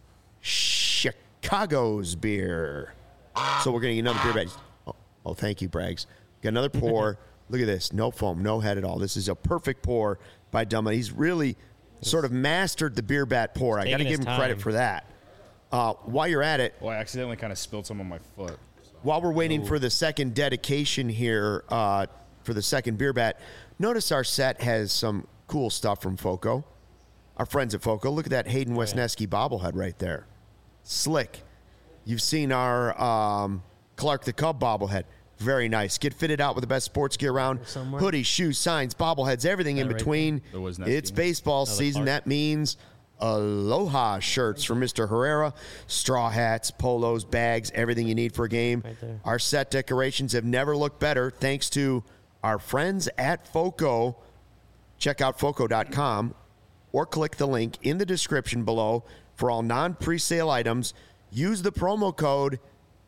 Speaker 1: Chicago's beer. So we're going to get another beer bat. Oh, thank you, Braggs. Got another pour. Look at this. No foam, no head at all. This is a perfect pour by Dumma. He's really sort of mastered the beer bat pour. I got to give him credit for that. While you're at it.
Speaker 4: Well, I accidentally kind of spilled some on my foot.
Speaker 1: While we're waiting for the second dedication here for the second beer bat, notice our set has some cool stuff from FOCO. Our friends at FOCO. Look at that Hayden Wesneski bobblehead right there. Slick. You've seen our Clark the Cub bobblehead. Very nice. Get fitted out with the best sports gear around. Hoodies, shoes, signs, bobbleheads, everything in between. It's baseball season. That means Aloha shirts from Mr. Herrera, straw hats, polos, bags, everything you need for a game. Our set decorations have never looked better thanks to our friends at FOCO. Check out FOCO.com or click the link in the description below for all non-presale items. Use the promo code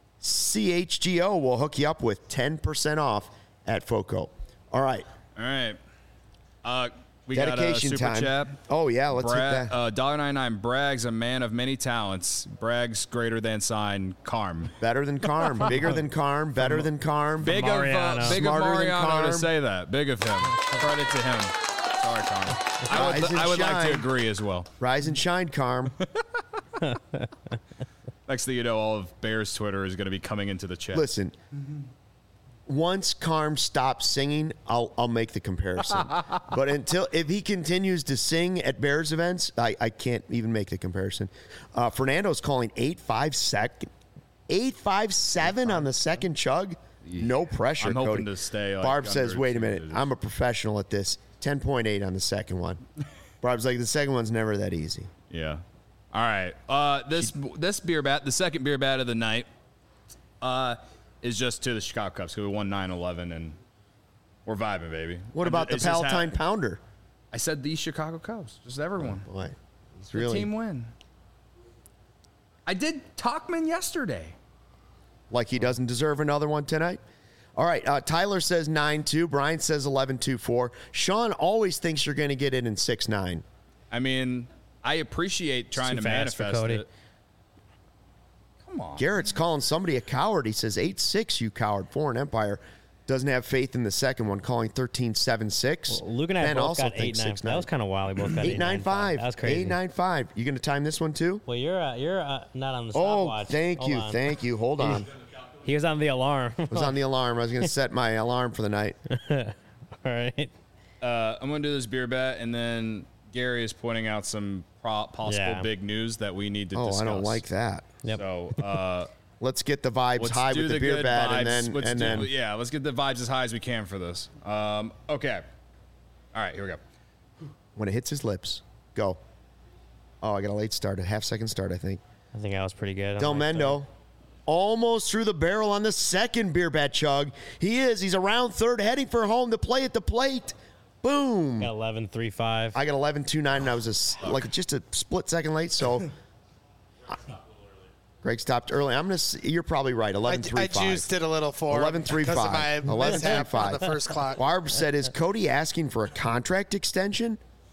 Speaker 1: CHGO. We'll hook you up with 10% off at FOCO. All right.
Speaker 4: We
Speaker 1: dedication
Speaker 4: got a super
Speaker 1: time.
Speaker 4: chat.
Speaker 1: Oh, yeah, let's hit that.
Speaker 4: $1.99. Braggs, a man of many talents. Braggs, greater than sign, Carm.
Speaker 1: Better than Carm. Bigger than Carm. Better than Carm.
Speaker 4: Big of
Speaker 2: Mariano.
Speaker 4: Mariano
Speaker 1: Carm.
Speaker 4: to say that. Big of him. Credit to him. Sorry, Carm. I would like to agree as well.
Speaker 1: Rise and shine, Carm.
Speaker 4: Next thing you know, all of Bears Twitter is going to be coming into the chat.
Speaker 1: Listen, once Carm stops singing, I'll make the comparison. But if he continues to sing at Bears events, I can't even make the comparison. Fernando's calling 8.57 on the second chug. No pressure,
Speaker 4: I'm hoping
Speaker 1: Cody.
Speaker 4: to stay. Like,
Speaker 1: Barb says,
Speaker 4: under
Speaker 1: "Wait a minute,
Speaker 4: 2
Speaker 1: I'm a professional at this." 10.8 on the second one. Barb's like, the second one's never that easy.
Speaker 4: Yeah. All right. This beer bat, the second beer bat of the night, is just to the Chicago Cubs, who won 9-11, and we're vibing, baby.
Speaker 1: What about the
Speaker 4: It's just
Speaker 1: Palatine Pounder?
Speaker 4: I said the Chicago Cubs, just everyone.
Speaker 1: Boy, it's
Speaker 4: The
Speaker 1: really
Speaker 4: team win. I did Talkman yesterday.
Speaker 1: like he doesn't deserve another one tonight. All right, Tyler says 9-2. Brian says 11-2-4. Sean always thinks you're going to get it in 6-9.
Speaker 4: I mean, I appreciate trying to
Speaker 2: too fast for
Speaker 4: manifest
Speaker 2: Cody.
Speaker 4: it. Come on.
Speaker 1: Garrett's calling somebody a coward. He says 8-6, you coward. Foreign Empire doesn't have faith in the second one, calling 13-7-6.
Speaker 2: Well, Luke and I
Speaker 1: Ben
Speaker 2: both
Speaker 1: also
Speaker 2: got
Speaker 1: thinks
Speaker 2: 8-9. That was kind of wild. We both got
Speaker 1: 8-9-5.
Speaker 2: That was crazy.
Speaker 1: 8-9-5. You going to time this one too?
Speaker 2: Well, you're not on the
Speaker 1: Oh,
Speaker 2: stopwatch.
Speaker 1: thank
Speaker 2: Hold
Speaker 1: you.
Speaker 2: on.
Speaker 1: Thank you. Hold on.
Speaker 2: He was on the alarm.
Speaker 1: I was on the alarm. I was going to set my alarm for the night.
Speaker 2: All right.
Speaker 4: I'm going to do this beer bet, and then Gary is pointing out some possible big news that we need to discuss.
Speaker 1: I don't like that.
Speaker 2: Yep.
Speaker 4: So
Speaker 1: Let's get the vibes
Speaker 4: let's
Speaker 1: high
Speaker 4: do
Speaker 1: with the
Speaker 4: the
Speaker 1: beer
Speaker 4: good
Speaker 1: bat,
Speaker 4: vibes.
Speaker 1: and then
Speaker 4: Let's get the vibes as high as we can for this. Okay. All right, here we go.
Speaker 1: when it hits his lips, go. Oh, I got a late start, a half-second start, I think.
Speaker 2: I think I was pretty good.
Speaker 1: Del Mendo almost through the barrel on the second beer bat chug. He's around third, heading for home to play at the plate. Boom.
Speaker 2: Got 11-3-5.
Speaker 1: I got 11-2-9, and I was just a split second late, so Greg stopped early. You're probably right, 11-3-5.
Speaker 5: I juiced it a little for
Speaker 1: 11-3-5.
Speaker 5: because of my mishap on
Speaker 1: 11-3-5.
Speaker 5: the first clock.
Speaker 1: Barb said, is Cody asking for a contract extension?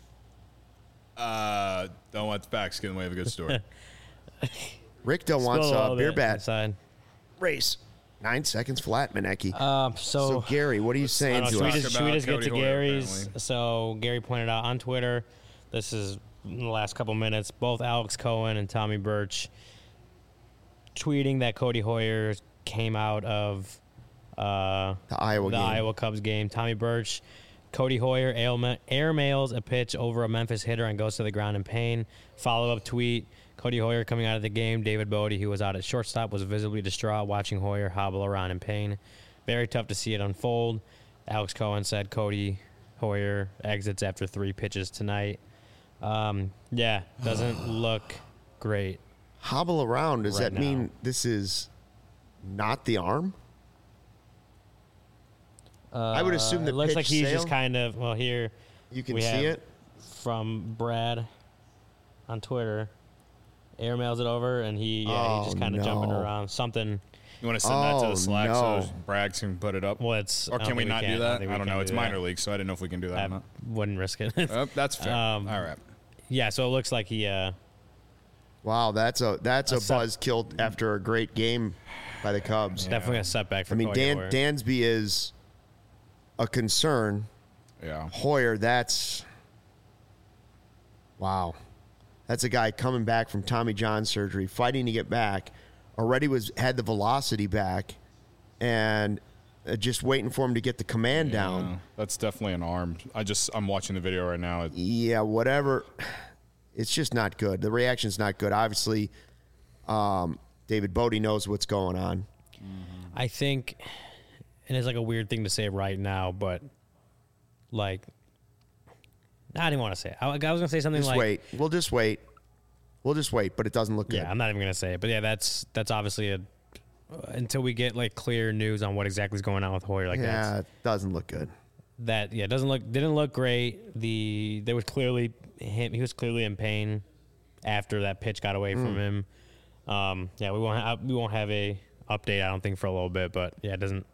Speaker 4: Don't let the facts get in the way of a good story.
Speaker 1: Richter wants
Speaker 2: Spill
Speaker 1: a
Speaker 2: all
Speaker 1: beer
Speaker 2: that
Speaker 1: bat
Speaker 2: inside.
Speaker 1: race. 9 seconds flat, Maneki.
Speaker 2: So
Speaker 1: Gary, what are you saying
Speaker 2: I
Speaker 1: to
Speaker 2: don't know,
Speaker 1: us?
Speaker 2: should we just get
Speaker 4: Cody
Speaker 2: to
Speaker 4: Hoyer,
Speaker 2: Gary's?
Speaker 4: apparently.
Speaker 2: So Gary pointed out on Twitter, this is in the last couple minutes, both Alex Cohen and Tommy Birch tweeting that Cody Hoyer came out of
Speaker 1: The Iowa game.
Speaker 2: Iowa Cubs game. Tommy Birch, Cody Hoyer airmails a pitch over a Memphis hitter and goes to the ground in pain. Follow-up tweet, Cody Hoyer coming out of the game. David Bodie, who was out at shortstop, was visibly distraught watching Hoyer hobble around in pain. Very tough to see it unfold. Alex Cohen said Cody Hoyer exits after 3 pitches tonight. Yeah, doesn't look great.
Speaker 1: Hobble around. Does
Speaker 2: Right
Speaker 1: that mean
Speaker 2: now.
Speaker 1: this is not the arm? I would assume the
Speaker 2: It looks
Speaker 1: pitch
Speaker 2: like he's just
Speaker 1: sail-
Speaker 2: kind of, well, here
Speaker 1: You can
Speaker 2: we
Speaker 1: see
Speaker 2: have
Speaker 1: it.
Speaker 2: from Brad on Twitter. Airmails it over, and he's just kind of jumping
Speaker 1: no.
Speaker 2: around. Something.
Speaker 4: You want to send that to
Speaker 1: Oh,
Speaker 4: the Slack
Speaker 1: no.
Speaker 4: so Bragg can put it up?
Speaker 2: Well, it's.
Speaker 4: Or
Speaker 2: I don't
Speaker 4: can we
Speaker 2: think
Speaker 4: not do
Speaker 2: can.
Speaker 4: that?
Speaker 2: think
Speaker 4: I
Speaker 2: we
Speaker 4: don't
Speaker 2: can
Speaker 4: know.
Speaker 2: do
Speaker 4: It's
Speaker 2: that.
Speaker 4: minor league, so I didn't know if we can do that or
Speaker 2: I
Speaker 4: not.
Speaker 2: wouldn't risk it.
Speaker 4: Oh, that's fair. All right.
Speaker 2: Yeah, so it looks like he.
Speaker 1: Wow, that's a
Speaker 2: set-
Speaker 1: buzz killed after a great game by the Cubs.
Speaker 2: Definitely a setback for
Speaker 1: I mean,
Speaker 2: Cody Hoyer.
Speaker 1: Dansby is a concern.
Speaker 4: Yeah.
Speaker 1: Hoyer, that's wow. That's a guy coming back from Tommy John surgery, fighting to get back. Already had the velocity back, and just waiting for him to get the command down.
Speaker 4: Yeah, that's definitely an arm. I'm watching the video right now.
Speaker 1: Yeah, whatever. It's just not good. The reaction's not good. Obviously, David Bodie knows what's going on.
Speaker 2: I think, and it's like a weird thing to say right now, but like, I didn't want to say it. I was going to say something
Speaker 1: Just
Speaker 2: like,
Speaker 1: wait. We'll just wait. We'll just wait, but it doesn't look good.
Speaker 2: yeah, I'm not even going to say it, but yeah, that's obviously until we get like clear news on what exactly is going on with Hoyer, like
Speaker 1: Yeah, it doesn't look good.
Speaker 2: didn't look great. He was clearly in pain after that pitch got away from him. Yeah, we won't have a update, I don't think, for a little bit, but yeah, it didn't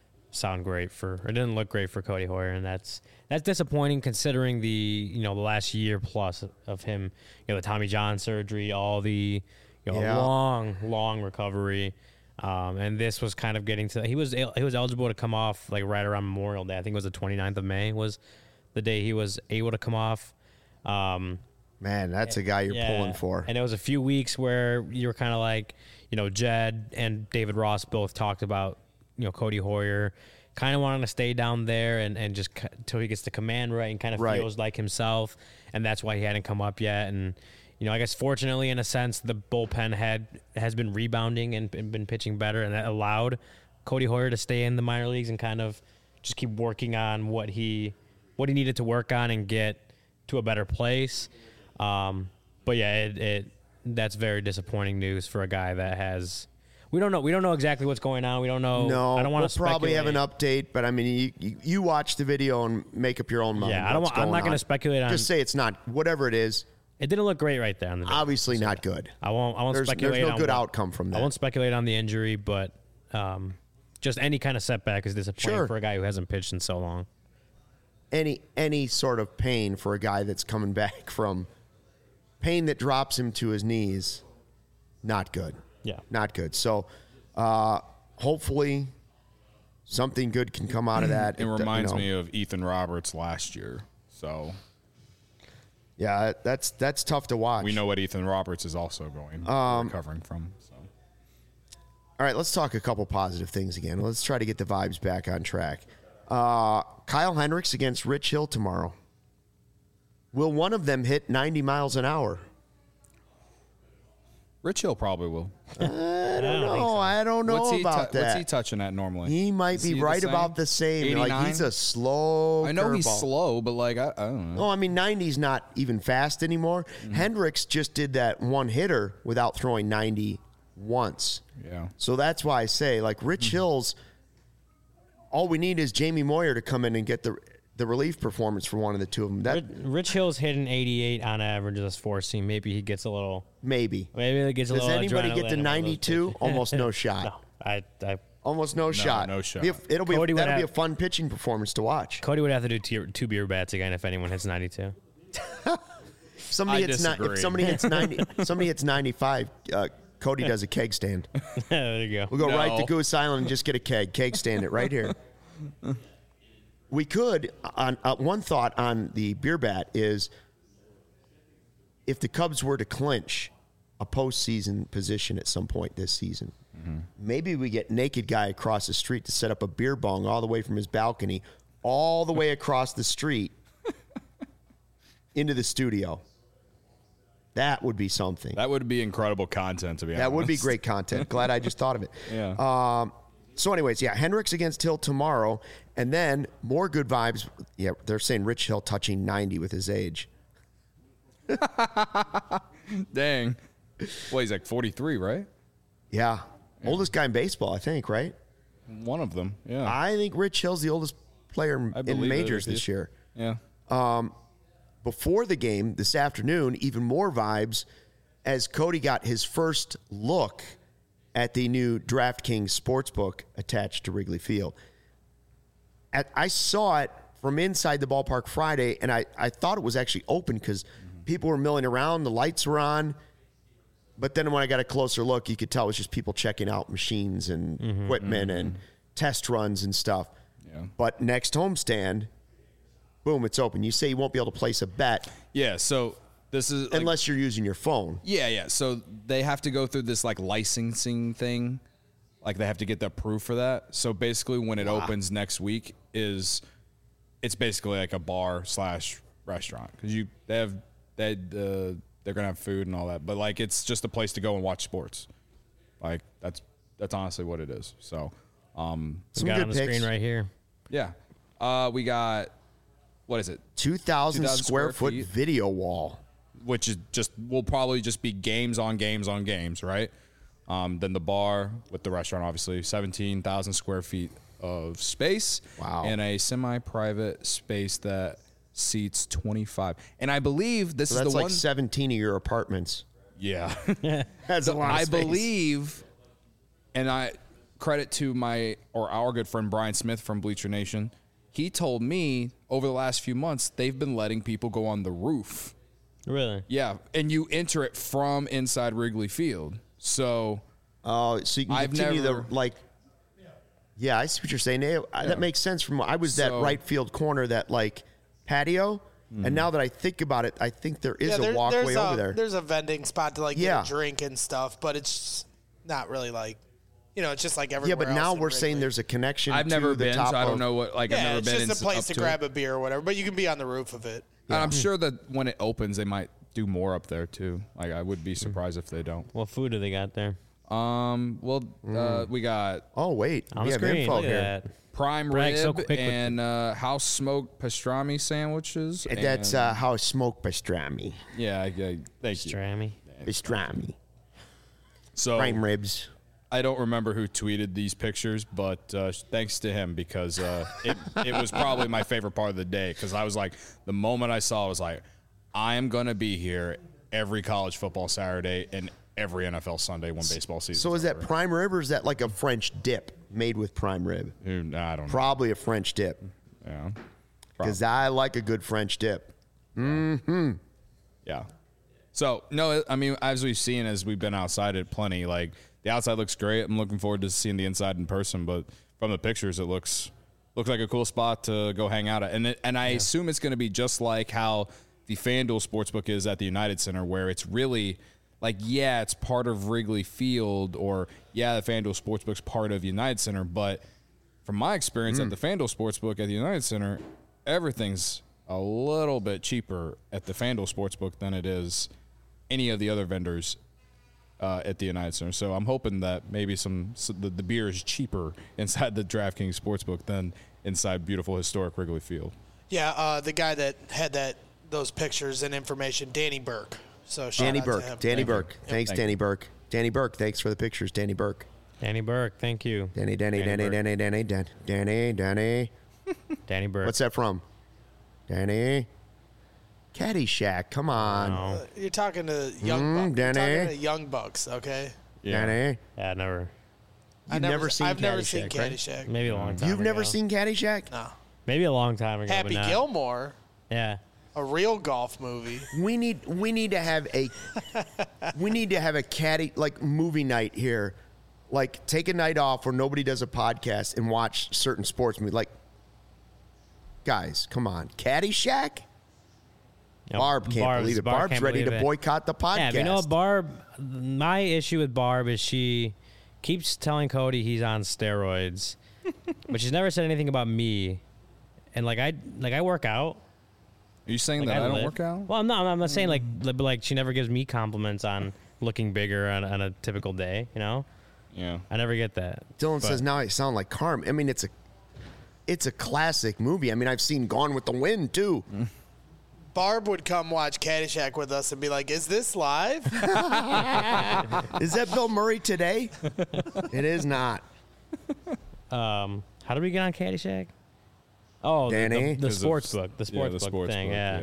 Speaker 2: look great for Cody Hoyer, and that's disappointing considering the last year plus of him, the Tommy John surgery, all the
Speaker 1: Yeah.
Speaker 2: long recovery. And this was kind of getting to, he was eligible to come off like right around Memorial Day. I think it was the 29th of May was the day he was able to come off.
Speaker 1: Man, that's a guy you're pulling for.
Speaker 2: And it was a few weeks where you were kind of like, Jed and David Ross both talked about, Cody Hoyer kind of wanting to stay down there and just until he gets the command right and kind of
Speaker 1: Right.
Speaker 2: feels like himself. And that's why he hadn't come up yet. And, I guess fortunately, in a sense, the bullpen has been rebounding and been pitching better, and that allowed Cody Hoyer to stay in the minor leagues and kind of just keep working on what he needed to work on and get to a better place. But yeah, that's very disappointing news for a guy that has. We don't know exactly what's going on. We don't know.
Speaker 1: No,
Speaker 2: I don't want
Speaker 1: we'll
Speaker 2: to
Speaker 1: probably have an
Speaker 2: speculate.
Speaker 1: update, but I mean, you watch the video and make up your own mind.
Speaker 2: Yeah, I'm not going to speculate on.
Speaker 1: Just say it's not whatever it is.
Speaker 2: It didn't look great right there on the.
Speaker 1: Obviously, not good.
Speaker 2: I won't
Speaker 1: There's
Speaker 2: speculate.
Speaker 1: no
Speaker 2: on
Speaker 1: good
Speaker 2: what-
Speaker 1: outcome from that.
Speaker 2: I won't speculate on the injury, but just any kind of setback is disappointing
Speaker 1: Sure.
Speaker 2: for a guy who hasn't pitched in so long.
Speaker 1: Any sort of pain for a guy that's coming back from pain that drops him to his knees, not good.
Speaker 2: Yeah.
Speaker 1: Not good. So, hopefully, something good can come out of that.
Speaker 4: It reminds me of Ethan Roberts last year. So
Speaker 1: Yeah, that's tough to watch.
Speaker 4: we know what Ethan Roberts is also recovering from. So
Speaker 1: All right, let's talk a couple positive things again. Let's try to get the vibes back on track. Kyle Hendricks against Rich Hill tomorrow. Will one of them hit 90 miles an hour?
Speaker 4: Rich Hill probably will.
Speaker 1: I don't know about that.
Speaker 4: What's he touching at normally?
Speaker 1: He might
Speaker 4: Is
Speaker 1: be
Speaker 4: he
Speaker 1: right
Speaker 4: the same?
Speaker 1: about the same. Like
Speaker 4: 89?
Speaker 1: he's a slow.
Speaker 4: I know he's
Speaker 1: curveball.
Speaker 4: slow, but like I don't know.
Speaker 1: No, I mean 90's not even fast anymore.
Speaker 4: Mm-hmm.
Speaker 1: Hendricks just did that one hitter without throwing 90 once.
Speaker 4: Yeah.
Speaker 1: So that's why I say like Rich Hill's. All we need is Jamie Moyer to come in and get the relief performance for one of the two of them.
Speaker 2: Rich Hill's hitting 88 on average this four seam. Maybe he gets a little.
Speaker 1: Maybe.
Speaker 2: Maybe he gets a
Speaker 1: Does
Speaker 2: little.
Speaker 1: anybody
Speaker 2: adrenaline
Speaker 1: get to
Speaker 2: in one of those
Speaker 1: 92?
Speaker 2: pitches.
Speaker 1: Almost no shot.
Speaker 2: No, I
Speaker 1: Almost no shot.
Speaker 4: no shot.
Speaker 1: That'll
Speaker 2: Cody would
Speaker 1: be
Speaker 2: have-
Speaker 1: a fun pitching performance to watch.
Speaker 2: Cody would have to do two beer bats again if anyone hits 92.
Speaker 1: Somebody
Speaker 4: I
Speaker 1: hits
Speaker 4: disagree.
Speaker 1: if somebody hits 90, somebody hits 95. Cody does a keg stand.
Speaker 2: There you go.
Speaker 1: We'll go right to
Speaker 4: No.
Speaker 1: Goose Island and just get a keg stand it right here. We could. One thought on the beer bat is if the Cubs were to clinch a postseason position at some point this season. Maybe we get naked guy across the street to set up a beer bong all the way from his balcony, all the way across the street into the studio. That would be something.
Speaker 4: That would be incredible content, to be honest.
Speaker 1: That would be great content. Glad I just thought of it.
Speaker 4: Yeah.
Speaker 1: So anyways, yeah, Hendricks against Hill tomorrow. And then more good vibes. Yeah, they're saying Rich Hill touching 90 with his age.
Speaker 4: Dang. Well, he's like 43, right?
Speaker 1: Yeah. Oldest guy in baseball, I think, right?
Speaker 4: One of them, yeah.
Speaker 1: I think Rich Hill's the oldest player
Speaker 4: I
Speaker 1: in
Speaker 4: believe it
Speaker 1: majors
Speaker 4: is.
Speaker 1: this year.
Speaker 4: Yeah.
Speaker 1: Before the game this afternoon, even more vibes as Cody got his first look at the new DraftKings Sportsbook attached to Wrigley Field. I saw it from inside the ballpark Friday, and I thought it was actually open because people were milling around, the lights were on. But then when I got a closer look, you could tell it was just people checking out machines and equipment and test runs and stuff.
Speaker 4: Yeah.
Speaker 1: But next homestand, boom, it's open. You say you won't be able to place a bet
Speaker 4: Yeah, so this is... like-
Speaker 1: unless you're using your phone.
Speaker 4: Yeah. So they have to go through this like licensing thing. Like they have to get the proof for that. So basically when it opens next week it's basically like a bar / restaurant because they're gonna have food and all that. But like it's just a place to go and watch sports. Like that's honestly what it is. So
Speaker 1: Some
Speaker 2: We got
Speaker 1: good
Speaker 2: on the
Speaker 1: picks.
Speaker 2: screen right here.
Speaker 4: yeah. We got what is it?
Speaker 1: 2,000 square foot
Speaker 4: feet.
Speaker 1: video wall.
Speaker 4: Which is will probably just be games on games on games, right? Then the bar with the restaurant, obviously, 17,000 square feet of space.
Speaker 1: Wow.
Speaker 4: And a semi-private space that seats 25. And I believe this
Speaker 1: So
Speaker 4: is
Speaker 1: that's
Speaker 4: the
Speaker 1: like
Speaker 4: one.
Speaker 1: 17 of your apartments.
Speaker 4: Yeah.
Speaker 1: That's a lot of
Speaker 4: I
Speaker 1: space.
Speaker 4: believe, and I credit to our good friend Brian Smith from Bleacher Nation. He told me over the last few months they've been letting people go on the roof.
Speaker 2: Really?
Speaker 4: Yeah, and you enter it from inside Wrigley Field. So
Speaker 1: Oh, so you can
Speaker 4: I've
Speaker 1: continue
Speaker 4: never-
Speaker 1: the like. Yeah, I see what you're saying. That makes sense. From I was that
Speaker 4: So-
Speaker 1: right field corner, that like patio, and now that I think about it, I think there is a walkway
Speaker 5: there's
Speaker 1: over there.
Speaker 5: There's a vending spot to like
Speaker 1: Yeah.
Speaker 5: get a drink and stuff, but it's not really like, it's just like
Speaker 1: Yeah,
Speaker 5: everywhere.
Speaker 1: but now
Speaker 5: else in
Speaker 1: we're saying
Speaker 5: Wrigley.
Speaker 1: there's a connection.
Speaker 4: I've never
Speaker 1: to the
Speaker 4: been,
Speaker 1: top
Speaker 4: so I don't
Speaker 1: of-
Speaker 4: know what. Like I've
Speaker 5: Yeah,
Speaker 4: never
Speaker 5: it's
Speaker 4: been.
Speaker 5: just a place
Speaker 4: up
Speaker 5: to
Speaker 4: it.
Speaker 5: grab a beer or whatever, but you can be on the roof of it.
Speaker 4: And I'm sure that when it opens, they might do more up there too. Like I would be surprised if they don't.
Speaker 2: What food do they got there?
Speaker 4: We got
Speaker 1: Oh wait,
Speaker 2: On
Speaker 1: we
Speaker 2: the
Speaker 1: have
Speaker 2: screen.
Speaker 1: info
Speaker 2: Look at
Speaker 1: here.
Speaker 2: that.
Speaker 4: prime
Speaker 2: Bragg
Speaker 4: rib
Speaker 2: so quick with
Speaker 4: and house smoked pastrami sandwiches.
Speaker 1: That's
Speaker 4: and-
Speaker 1: how smoked pastrami.
Speaker 4: yeah. Thank you.
Speaker 2: Strammy.
Speaker 1: Pastrami.
Speaker 4: So
Speaker 1: Prime ribs.
Speaker 4: I don't remember who tweeted these pictures, but thanks to him because it was probably my favorite part of the day because I was like, the moment I saw it, I was like, I am going to be here every college football Saturday and every NFL Sunday when baseball season.
Speaker 1: So is that prime rib or is that like a French dip made with prime rib?
Speaker 4: I don't know.
Speaker 1: Probably a French dip
Speaker 4: Yeah.
Speaker 1: because I like a good French dip.
Speaker 4: Yeah. So, no, I mean, as we've seen, as we've been outside it plenty, like the outside looks great. I'm looking forward to seeing the inside in person, but from the pictures, it looks like a cool spot to go hang out at. And I assume it's going to be just like how the FanDuel Sportsbook is at the United Center, where it's really like, yeah, it's part of Wrigley Field, or yeah, the FanDuel Sportsbook's part of United Center. But from my experience at the FanDuel Sportsbook at the United Center, everything's a little bit cheaper at the FanDuel Sportsbook than it is any of the other vendors at the United Center. So I'm hoping that maybe the beer is cheaper inside the DraftKings Sportsbook than inside beautiful historic Wrigley Field.
Speaker 5: Yeah, the guy that had those pictures and information, Danny Burke. So shout
Speaker 1: Danny
Speaker 5: out to
Speaker 1: Burke.
Speaker 5: him.
Speaker 1: Danny Burke. Thanks,
Speaker 4: Thank
Speaker 1: Danny
Speaker 4: you.
Speaker 1: Burke. Danny Burke. Thanks for the pictures, Danny Burke.
Speaker 2: Danny Burke. Thank you.
Speaker 1: Danny.
Speaker 2: Danny Burke.
Speaker 1: What's that from? Danny. Caddyshack. Come on.
Speaker 2: Oh,
Speaker 5: You're talking to young Bucks. You're
Speaker 1: Danny.
Speaker 5: talking to young Bucks, okay?
Speaker 1: Danny.
Speaker 2: yeah, never.
Speaker 1: You've never seen
Speaker 5: I've never seen
Speaker 1: Caddyshack, right?
Speaker 5: Caddyshack.
Speaker 2: Maybe a long time
Speaker 1: You've never
Speaker 2: ago.
Speaker 1: seen Caddyshack?
Speaker 5: No.
Speaker 2: Maybe a long time ago.
Speaker 5: Happy
Speaker 2: but not.
Speaker 5: Gilmore,
Speaker 2: Yeah.
Speaker 5: a real golf movie.
Speaker 1: We need to have a caddy like movie night here. Like take a night off where nobody does a podcast and watch certain sports movies. Like, guys, come on, Caddyshack.
Speaker 2: know,
Speaker 1: Barb can't believe it. Barb's
Speaker 2: can't
Speaker 1: ready
Speaker 2: believe
Speaker 1: to
Speaker 2: it.
Speaker 1: boycott the podcast.
Speaker 2: Yeah, but you know, Barb. My issue with Barb is she keeps telling Cody he's on steroids, but she's never said anything about me. And I work out.
Speaker 4: Are you saying that I don't work out?
Speaker 2: Well, I'm not saying like she never gives me compliments on looking bigger on a typical day. You know.
Speaker 4: Yeah.
Speaker 2: I never get that.
Speaker 1: Dylan says now I sound like Carm. I mean, it's a classic movie. I mean, I've seen Gone with the Wind too.
Speaker 5: Barb would come watch Caddyshack with us and be like, "Is this live?"
Speaker 1: Is that Bill Murray today? It is not.
Speaker 2: How did we get on Caddyshack? Oh,
Speaker 1: Danny?
Speaker 2: the sports book, the sports book thing. Yeah.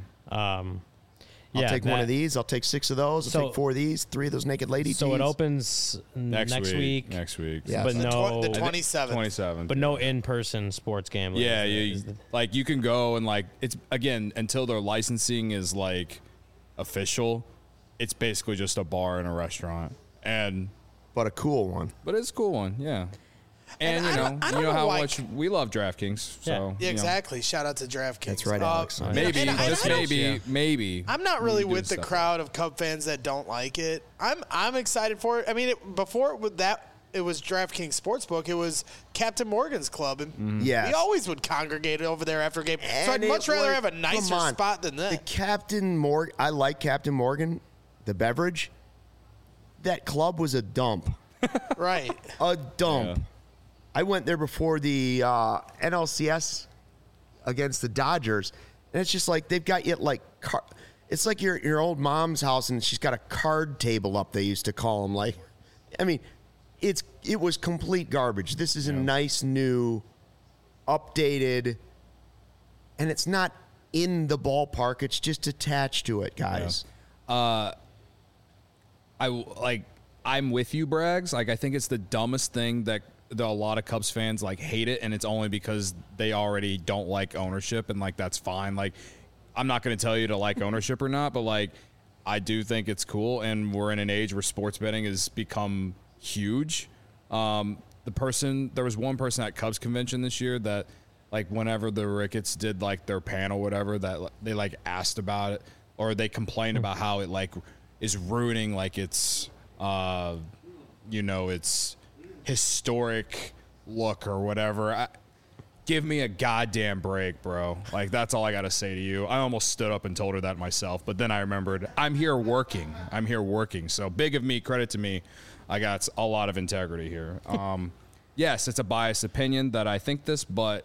Speaker 4: Yeah.
Speaker 1: I'll take one of these. I'll take 6 of those. I'll take 4 of these. 3 of those naked lady
Speaker 2: So
Speaker 1: tees.
Speaker 2: it opens next week.
Speaker 4: Next week.
Speaker 1: Yeah.
Speaker 2: But no,
Speaker 5: the 27th.
Speaker 4: 27.
Speaker 2: but no in-person sports gambling.
Speaker 4: Yeah,
Speaker 2: Is
Speaker 4: you,
Speaker 2: the-
Speaker 4: like you can go and like it's again until their licensing is like official. It's basically just a bar and a restaurant,
Speaker 1: But a cool one.
Speaker 4: but it's a cool one, yeah. And
Speaker 5: I
Speaker 4: you
Speaker 5: don't
Speaker 4: know
Speaker 5: know
Speaker 4: how
Speaker 5: why-
Speaker 4: much we love DraftKings, so
Speaker 2: Yeah.
Speaker 5: Yeah,
Speaker 4: you know,
Speaker 5: exactly. Shout out to DraftKings.
Speaker 1: That's right, Alex.
Speaker 4: maybe
Speaker 5: And I
Speaker 4: just
Speaker 5: don't-
Speaker 4: maybe.
Speaker 5: I'm not really
Speaker 4: we do
Speaker 5: with the
Speaker 4: stuff.
Speaker 5: crowd of Cub fans that don't like it. I'm excited for it. I mean, before it was DraftKings Sportsbook. It was Captain Morgan's club, and
Speaker 1: Yes.
Speaker 5: we always would congregate over there after a game. So I'd
Speaker 1: And
Speaker 5: much
Speaker 1: it
Speaker 5: rather
Speaker 1: was-
Speaker 5: have a
Speaker 1: come
Speaker 5: nicer
Speaker 1: on.
Speaker 5: spot than
Speaker 1: The
Speaker 5: that.
Speaker 1: Captain Morgan. I like Captain Morgan, the beverage. That club was a dump.
Speaker 5: Right.
Speaker 1: A dump.
Speaker 4: Yeah.
Speaker 1: I went there before the NLCS against the Dodgers, and it's just like they've got you like it's like your old mom's house, and she's got a card table up. They used to call them like, I mean, it was complete garbage. This is a nice new, updated, and it's not in the ballpark. It's just attached to it, guys.
Speaker 4: I'm with you, Braggs. Like I think it's the dumbest thing that a lot of Cubs fans like hate it, and it's only because they already don't like ownership, and like that's fine. Like I'm not going to tell you to like ownership or not, but like I do think it's cool, and we're in an age where sports betting has become huge. There was one person at Cubs convention this year that like whenever the Ricketts did like their panel, whatever, that they like asked about it or they complained about how it like is ruining like its its historic look or whatever. Give me a goddamn break, bro. Like that's all I got to say to you. I almost stood up and told her that myself, but then I remembered I'm here working. So big of me, credit to me. I got a lot of integrity here. Yes, it's a biased opinion that I think this, but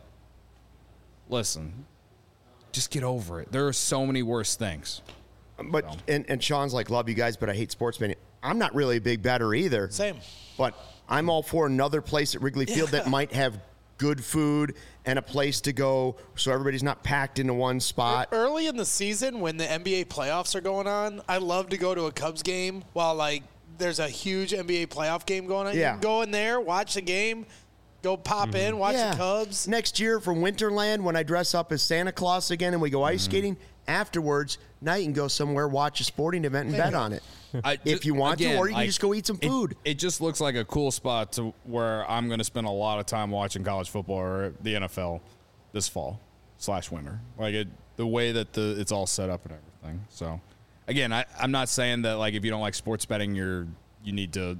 Speaker 4: listen, just get over it. There are so many worse things.
Speaker 1: But and Sean's like, love you guys, but I hate sports betting. I'm not really a big better either.
Speaker 5: Same.
Speaker 1: But I'm all for another place at Wrigley Field that might have good food and a place to go so everybody's not packed into one spot.
Speaker 5: Early in the season, when the NBA playoffs are going on, I love to go to a Cubs game while like there's a huge NBA playoff game going on.
Speaker 1: Yeah.
Speaker 5: You can go in there, watch the game, go pop in, watch the Cubs.
Speaker 1: Next year from Winterland, when I dress up as Santa Claus again and we go ice skating, afterwards, now you can go somewhere, watch a sporting event, and bet on it. If you want to, or you can just go eat some food.
Speaker 4: It just looks like a cool spot to where I'm going to spend a lot of time watching college football or the NFL this fall / winter. Like the way that it's all set up and everything. So, again, I'm not saying that like if you don't like sports betting, you need to,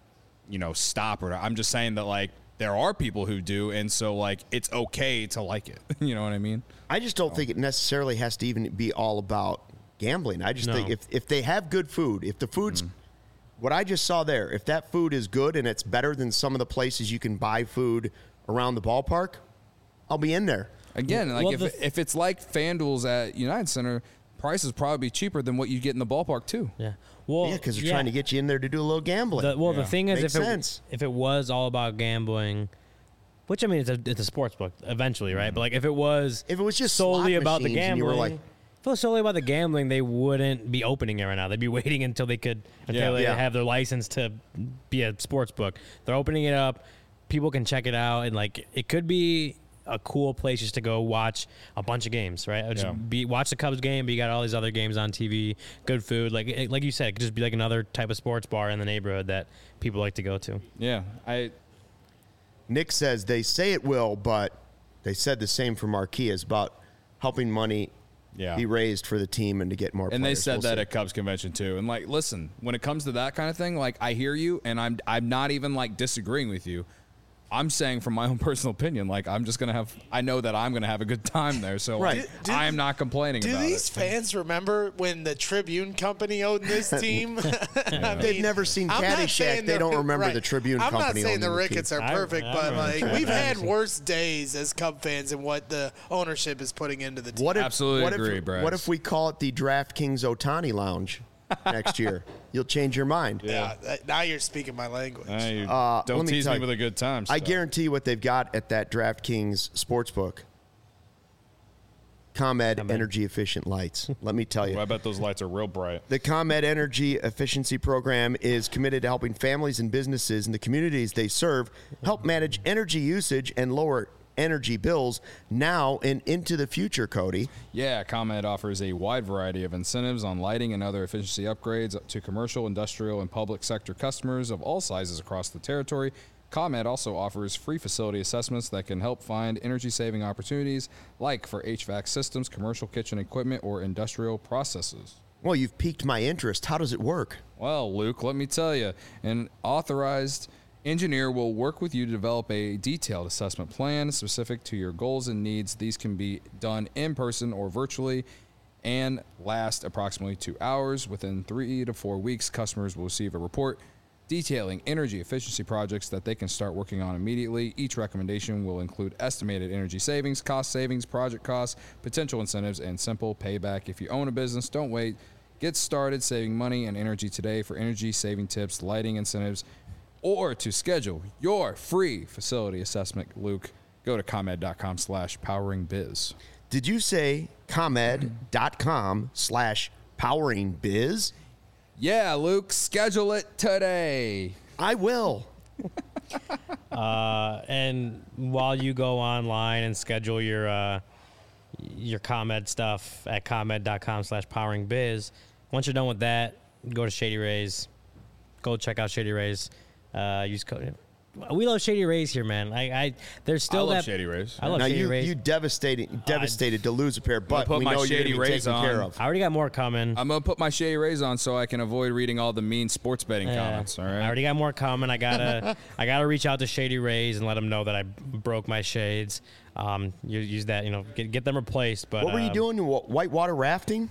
Speaker 4: stop or. I'm just saying that like there are people who do, and so like it's okay to like it. You know what I mean?
Speaker 1: I just don't think it necessarily has to even be all about gambling. I just think if they have good food, if the food's what I just saw there, if that food is good and it's better than some of the places you can buy food around the ballpark, I'll be in there.
Speaker 4: Again, like
Speaker 2: Well,
Speaker 4: if it's like FanDuel's at United Center, prices probably be cheaper than what you get in the ballpark too.
Speaker 2: Yeah. Well,
Speaker 1: Yeah, because they're trying to get you in there to do a little gambling.
Speaker 2: The thing is,
Speaker 1: Makes sense.
Speaker 2: if it was all about gambling, which I mean, it's a sports book eventually, right? But like if it was
Speaker 1: just
Speaker 2: solely
Speaker 1: slot
Speaker 2: about the
Speaker 1: machines and you
Speaker 2: gambling,
Speaker 1: were like-
Speaker 2: if it was solely about the gambling, they wouldn't be opening it right now. They'd be waiting until they
Speaker 1: Yeah.
Speaker 2: have their license to be a sports book. They're opening it up. People can check it out, and like it could be a cool place just to go watch a bunch of games, right? Watch the Cubs game, but you got all these other games on TV, good food. Like you said, it could just be like another type of sports bar in the neighborhood that people like to go to.
Speaker 4: Yeah,
Speaker 1: Nick says they say it will, but they said the same for Marquee is about helping money
Speaker 4: Yeah.
Speaker 1: be raised for the team and to get more
Speaker 4: And they
Speaker 1: players.
Speaker 4: said
Speaker 1: We'll
Speaker 4: that
Speaker 1: see.
Speaker 4: at Cubs convention too. And like, listen, when it comes to that kind of thing, like I hear you, and I'm not even like disagreeing with you. I'm saying from my own personal opinion, like I know that I'm gonna have a good time there. So
Speaker 1: Right.
Speaker 4: I am not complaining
Speaker 5: Do
Speaker 4: about
Speaker 5: these
Speaker 4: it.
Speaker 5: fans remember when the Tribune Company owned this team? I
Speaker 1: They've never seen
Speaker 5: I'm not
Speaker 1: Caddyshack.
Speaker 5: saying
Speaker 1: They
Speaker 5: they're-
Speaker 1: don't remember the Tribune
Speaker 5: I'm
Speaker 1: Company
Speaker 5: not saying the
Speaker 1: owning the team.
Speaker 5: Ricketts are
Speaker 2: I-
Speaker 5: perfect,
Speaker 2: I
Speaker 5: but
Speaker 2: remember
Speaker 5: like
Speaker 2: Tribune.
Speaker 5: we've had worse days as Cub fans and what the ownership is putting into the team.
Speaker 1: What if,
Speaker 4: Absolutely
Speaker 1: what
Speaker 4: agree,
Speaker 1: if,
Speaker 4: Bryce.
Speaker 1: What if we call it the DraftKings Otani Lounge next year? You'll change your mind.
Speaker 5: Yeah, now you're speaking my language.
Speaker 4: Hey,
Speaker 1: let
Speaker 4: don't
Speaker 1: me
Speaker 4: tease
Speaker 1: tell
Speaker 4: me
Speaker 1: you,
Speaker 4: with a good time.
Speaker 1: I
Speaker 4: stuff.
Speaker 1: guarantee what they've got at that DraftKings Sportsbook. ComEd energy efficient lights. Let me tell you.
Speaker 4: I bet those lights are real bright.
Speaker 1: The ComEd Energy Efficiency Program is committed to helping families and businesses in the communities they serve help manage energy usage and lower energy bills now and into the future, Cody.
Speaker 4: Yeah, ComEd offers a wide variety of incentives on lighting and other efficiency upgrades to commercial, industrial, and public sector customers of all sizes across the territory. ComEd also offers free facility assessments that can help find energy-saving opportunities, like for HVAC systems, commercial kitchen equipment, or industrial processes.
Speaker 1: Well, you've piqued my interest. How does it work?
Speaker 4: Well, Luke, let me tell you, an authorized engineer will work with you to develop a detailed assessment plan specific to your goals and needs. These can be done in person or virtually and last approximately 2 hours. Within 3 to 4 weeks, customers will receive a report detailing energy efficiency projects that they can start working on immediately. Each recommendation will include estimated energy savings, cost savings, project costs, potential incentives, and simple payback. If you own a business, don't wait. Get started saving money and energy today. For energy saving tips, lighting incentives, or to schedule your free facility assessment, Luke, go to ComEd.com/poweringbiz.
Speaker 1: Did you say ComEd.com/poweringbiz?
Speaker 4: Yeah, Luke, schedule it today.
Speaker 1: I will.
Speaker 2: And while you go online and schedule your ComEd stuff at ComEd.com/poweringbiz, once you're done with that, go to Shady Rays. Go check out Shady Rays. Use code. We love Shady Rays here, man. There's still
Speaker 4: I
Speaker 2: that.
Speaker 4: love Shady Rays.
Speaker 2: I love
Speaker 1: Now
Speaker 2: Shady Rays.
Speaker 1: you devastated to lose a pair, but
Speaker 4: put
Speaker 1: we
Speaker 4: my
Speaker 1: know you're
Speaker 4: Shady
Speaker 1: going to be
Speaker 4: Rays
Speaker 1: taken
Speaker 4: on.
Speaker 1: care of.
Speaker 2: I already got more coming.
Speaker 4: I'm going to put my Shady Rays on so I can avoid reading all the mean sports betting comments, all
Speaker 2: I
Speaker 4: right?
Speaker 2: already got more coming. I gotta reach out to Shady Rays and let them know that I broke my shades. You use that, get them replaced. But
Speaker 1: What were you doing? Whitewater rafting?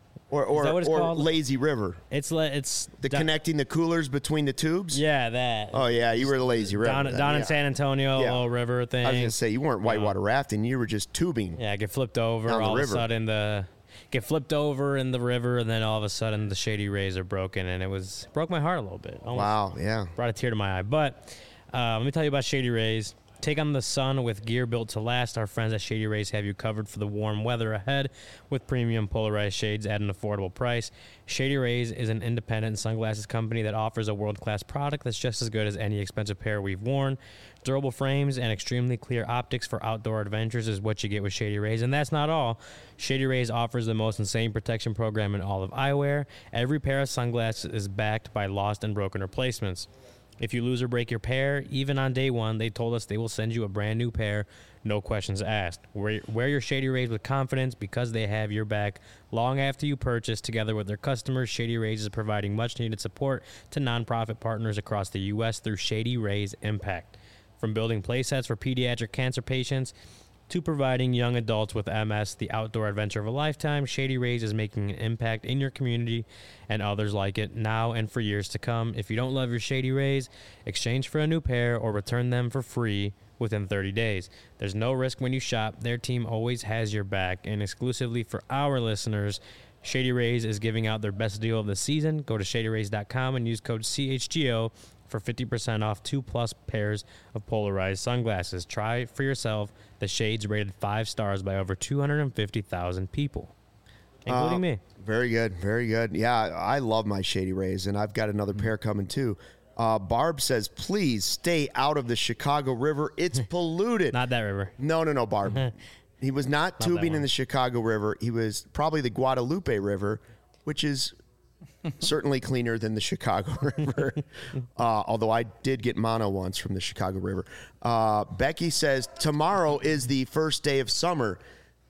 Speaker 1: Or
Speaker 2: that what it's called?
Speaker 1: lazy river?
Speaker 2: It's
Speaker 1: Connecting the coolers between the tubes?
Speaker 2: Yeah, that.
Speaker 1: Oh, yeah, you were the lazy river.
Speaker 2: down
Speaker 1: then,
Speaker 2: in
Speaker 1: yeah.
Speaker 2: San Antonio,
Speaker 1: Yeah.
Speaker 2: little river thing.
Speaker 1: I was going to say, you weren't whitewater rafting. You were just tubing.
Speaker 2: Yeah, get flipped over.
Speaker 1: Down the
Speaker 2: All of a
Speaker 1: river.
Speaker 2: sudden, get flipped over in the river, and then all of a sudden, the Shady Rays are broken, and broke my heart a little bit. Almost
Speaker 1: Wow, yeah.
Speaker 2: brought a tear to my eye. But let me tell you about Shady Rays. Take on the sun with gear built to last. Our friends at Shady Rays have you covered for the warm weather ahead with premium polarized shades at an affordable price. Shady Rays is an independent sunglasses company that offers a world-class product that's just as good as any expensive pair we've worn. Durable frames and extremely clear optics for outdoor adventures is what you get with Shady Rays. And that's not all. Shady Rays offers the most insane protection program in all of eyewear. Every pair of sunglasses is backed by lost and broken replacements. If you lose or break your pair, even on day one, they told us they will send you a brand new pair, no questions asked. Wear your Shady Rays with confidence because they have your back long after you purchase. Together with their customers, Shady Rays is providing much-needed support to nonprofit partners across the U.S. through Shady Rays Impact. From building playsets for pediatric cancer patients to providing young adults with MS the outdoor adventure of a lifetime, Shady Rays is making an impact in your community and others like it now and for years to come. If you don't love your Shady Rays, exchange for a new pair or return them for free within 30 days. There's no risk when you shop. Their team always has your back. And exclusively for our listeners, Shady Rays is giving out their best deal of the season. Go to shadyrays.com and use code CHGO for 50% off 2+ pairs of polarized sunglasses. Try it for yourself. The shades rated 5 stars by over 250,000 people, including me.
Speaker 1: Very good, very good. Yeah, I love my Shady Rays, and I've got another pair coming too. Barb says, please stay out of the Chicago River. It's polluted.
Speaker 2: Not that river.
Speaker 1: No, Barb. He was not
Speaker 2: that
Speaker 1: tubing in
Speaker 2: one.
Speaker 1: the Chicago River. He was probably the Guadalupe River, which is certainly cleaner than the Chicago River. Although I did get mono once from the Chicago River. Becky says, tomorrow is the first day of summer.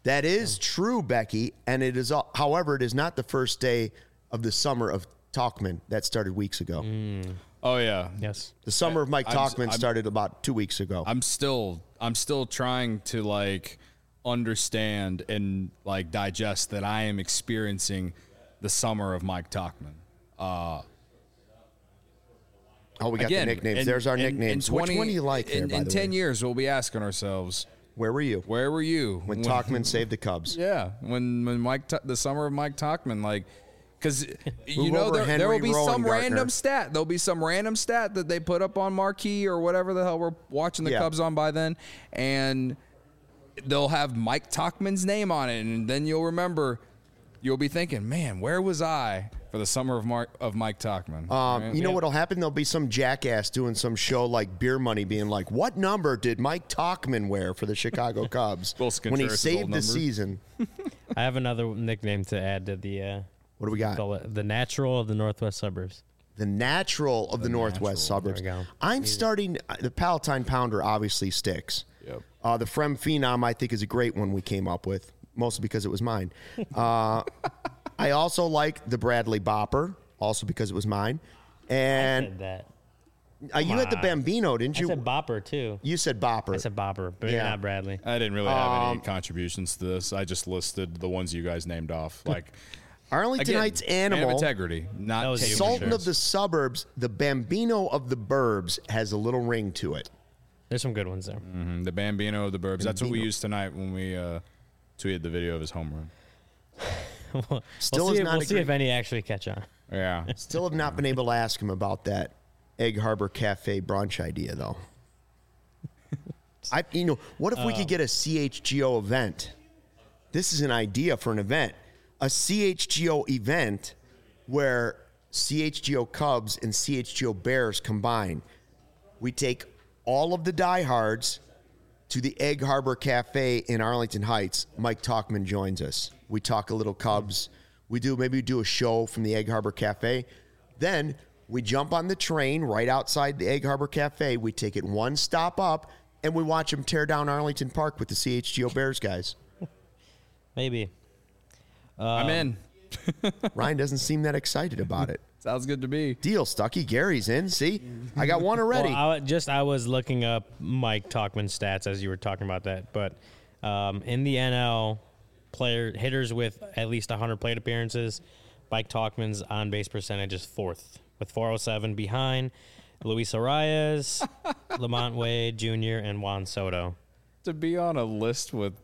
Speaker 1: That is true, Becky, and it is. However, it is not the first day of the summer of Talkman. That started weeks ago.
Speaker 4: Oh yeah.
Speaker 2: Yes.
Speaker 1: The summer of Mike
Speaker 4: I'm-
Speaker 1: Talkman
Speaker 4: I'm-
Speaker 1: started about 2 weeks ago.
Speaker 4: I'm still trying to like understand and like digest that I am experiencing the summer of Mike Talkman.
Speaker 1: Oh, we got
Speaker 4: Again,
Speaker 1: the nicknames.
Speaker 4: in-
Speaker 1: There's our
Speaker 4: in- in
Speaker 1: nicknames.
Speaker 4: 20
Speaker 1: Which one do you like there, by
Speaker 4: in
Speaker 1: the
Speaker 4: 10
Speaker 1: way?
Speaker 4: years, we'll be asking ourselves,
Speaker 1: Where were you
Speaker 4: where were you
Speaker 1: when Talkman saved the Cubs?
Speaker 4: Yeah, when the summer of Mike Talkman, like, because you
Speaker 1: Move
Speaker 4: know
Speaker 1: over
Speaker 4: there
Speaker 1: Henry
Speaker 4: will be
Speaker 1: Rowan,
Speaker 4: some
Speaker 1: Gartner.
Speaker 4: random stat. There'll be some random stat that they put up on Marquee or whatever the hell we're watching the
Speaker 1: Yeah.
Speaker 4: Cubs on by then, and they'll have Mike Talkman's name on it, and then you'll remember. You'll be thinking, man, where was I for the summer of Mike Talkman? Right?
Speaker 1: You know what'll happen? There'll be some jackass doing some show like Beer Money being like, what number did Mike Talkman wear for the Chicago Cubs
Speaker 4: Wilson
Speaker 1: when he
Speaker 4: Contreras'
Speaker 1: saved
Speaker 4: old
Speaker 1: the
Speaker 4: number.
Speaker 1: season?
Speaker 2: I have another nickname to add to the
Speaker 1: What do we got?
Speaker 2: the natural of the Northwest suburbs.
Speaker 1: The natural of the Northwest suburbs.
Speaker 2: There we go.
Speaker 1: I'm starting, the Palatine Pounder obviously sticks.
Speaker 4: Yep.
Speaker 1: The Frem Phenom, I think, is a great one we came up with, mostly because it was mine. I also like the Bradley Bopper, also because it was mine.
Speaker 2: I
Speaker 1: And
Speaker 2: said that.
Speaker 1: you had the
Speaker 2: on.
Speaker 1: Bambino, didn't
Speaker 2: I
Speaker 1: you?
Speaker 2: said Bopper too.
Speaker 1: You said Bopper.
Speaker 2: I said Bopper, but
Speaker 1: Yeah.
Speaker 2: not Bradley.
Speaker 4: I didn't really have any contributions to this. I just listed the ones you guys named off. Like
Speaker 1: Arlington
Speaker 4: again,
Speaker 1: Heights
Speaker 4: man of
Speaker 1: Animal,
Speaker 4: integrity, not
Speaker 2: That was
Speaker 4: taking
Speaker 2: you.
Speaker 1: Sultan
Speaker 2: sure.
Speaker 1: of the Suburbs, the Bambino of the Burbs has a little ring to it.
Speaker 2: There's some good ones there.
Speaker 4: the Bambino of the Burbs. That's what we
Speaker 1: Bambino.
Speaker 4: used tonight when we tweeted the video of his home run.
Speaker 1: Still
Speaker 2: we'll
Speaker 1: is
Speaker 2: see,
Speaker 1: not
Speaker 2: we'll
Speaker 1: a
Speaker 2: see
Speaker 1: great-
Speaker 2: if any actually catch on.
Speaker 4: Yeah.
Speaker 1: Still have not been able to ask him about that Egg Harbor Cafe brunch idea, though. What if we could get a CHGO event? This is an idea for an event. A CHGO event where CHGO Cubs and CHGO Bears combine. We take all of the diehards to the Egg Harbor Cafe in Arlington Heights. Mike Talkman joins us. We talk a little Cubs. Maybe we do a show from the Egg Harbor Cafe. Then we jump on the train right outside the Egg Harbor Cafe. We take it one stop up, and we watch them tear down Arlington Park with the CHGO Bears guys.
Speaker 2: Maybe.
Speaker 4: I'm in.
Speaker 1: Ryan doesn't seem that excited about it.
Speaker 4: Sounds good to me.
Speaker 1: Deal, Stucky. Gary's in. See, I got one already.
Speaker 2: Well, I was looking up Mike Talkman stats as you were talking about that, but in the NL, hitters with at least 100 plate appearances, Mike Talkman's on base percentage is fourth with 407 behind Luis Arias, Lamont Wade Jr. and Juan Soto.
Speaker 4: To be on a list with,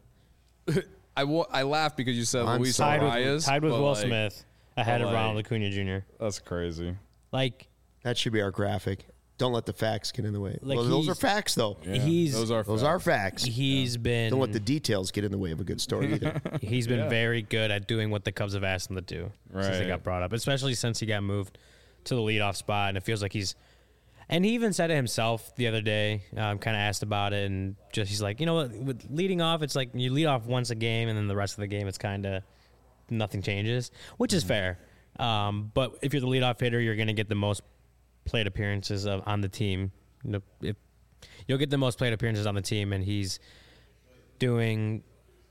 Speaker 4: I laugh because you said
Speaker 1: I'm
Speaker 4: Luis
Speaker 1: sorry.
Speaker 4: Arias.
Speaker 2: Tied with
Speaker 4: but,
Speaker 2: Will
Speaker 4: like,
Speaker 2: Smith ahead of
Speaker 4: like-
Speaker 2: Ronald Acuna Jr.
Speaker 4: That's crazy.
Speaker 2: Like
Speaker 1: That should be our graphic. Don't let the facts get in the way.
Speaker 2: Like
Speaker 1: Well, those are
Speaker 2: he's-
Speaker 1: facts, though.
Speaker 4: Yeah,
Speaker 2: He's-
Speaker 4: those are
Speaker 1: Facts.
Speaker 2: he's been
Speaker 1: Don't let the details get in the way of a good story either.
Speaker 2: He's been very good at doing what the Cubs have asked him to do since he
Speaker 4: Right.
Speaker 2: got brought up, especially since he got moved to the leadoff spot. And it feels like and he even said it himself the other day, kind of asked about it. And he's like, with leading off, it's like you lead off once a game and then the rest of the game, it's kind of nothing changes, which is fair. But if you're the leadoff hitter, you're going to get the most plate appearances on the team. You'll get the most plate appearances on the team, and he's doing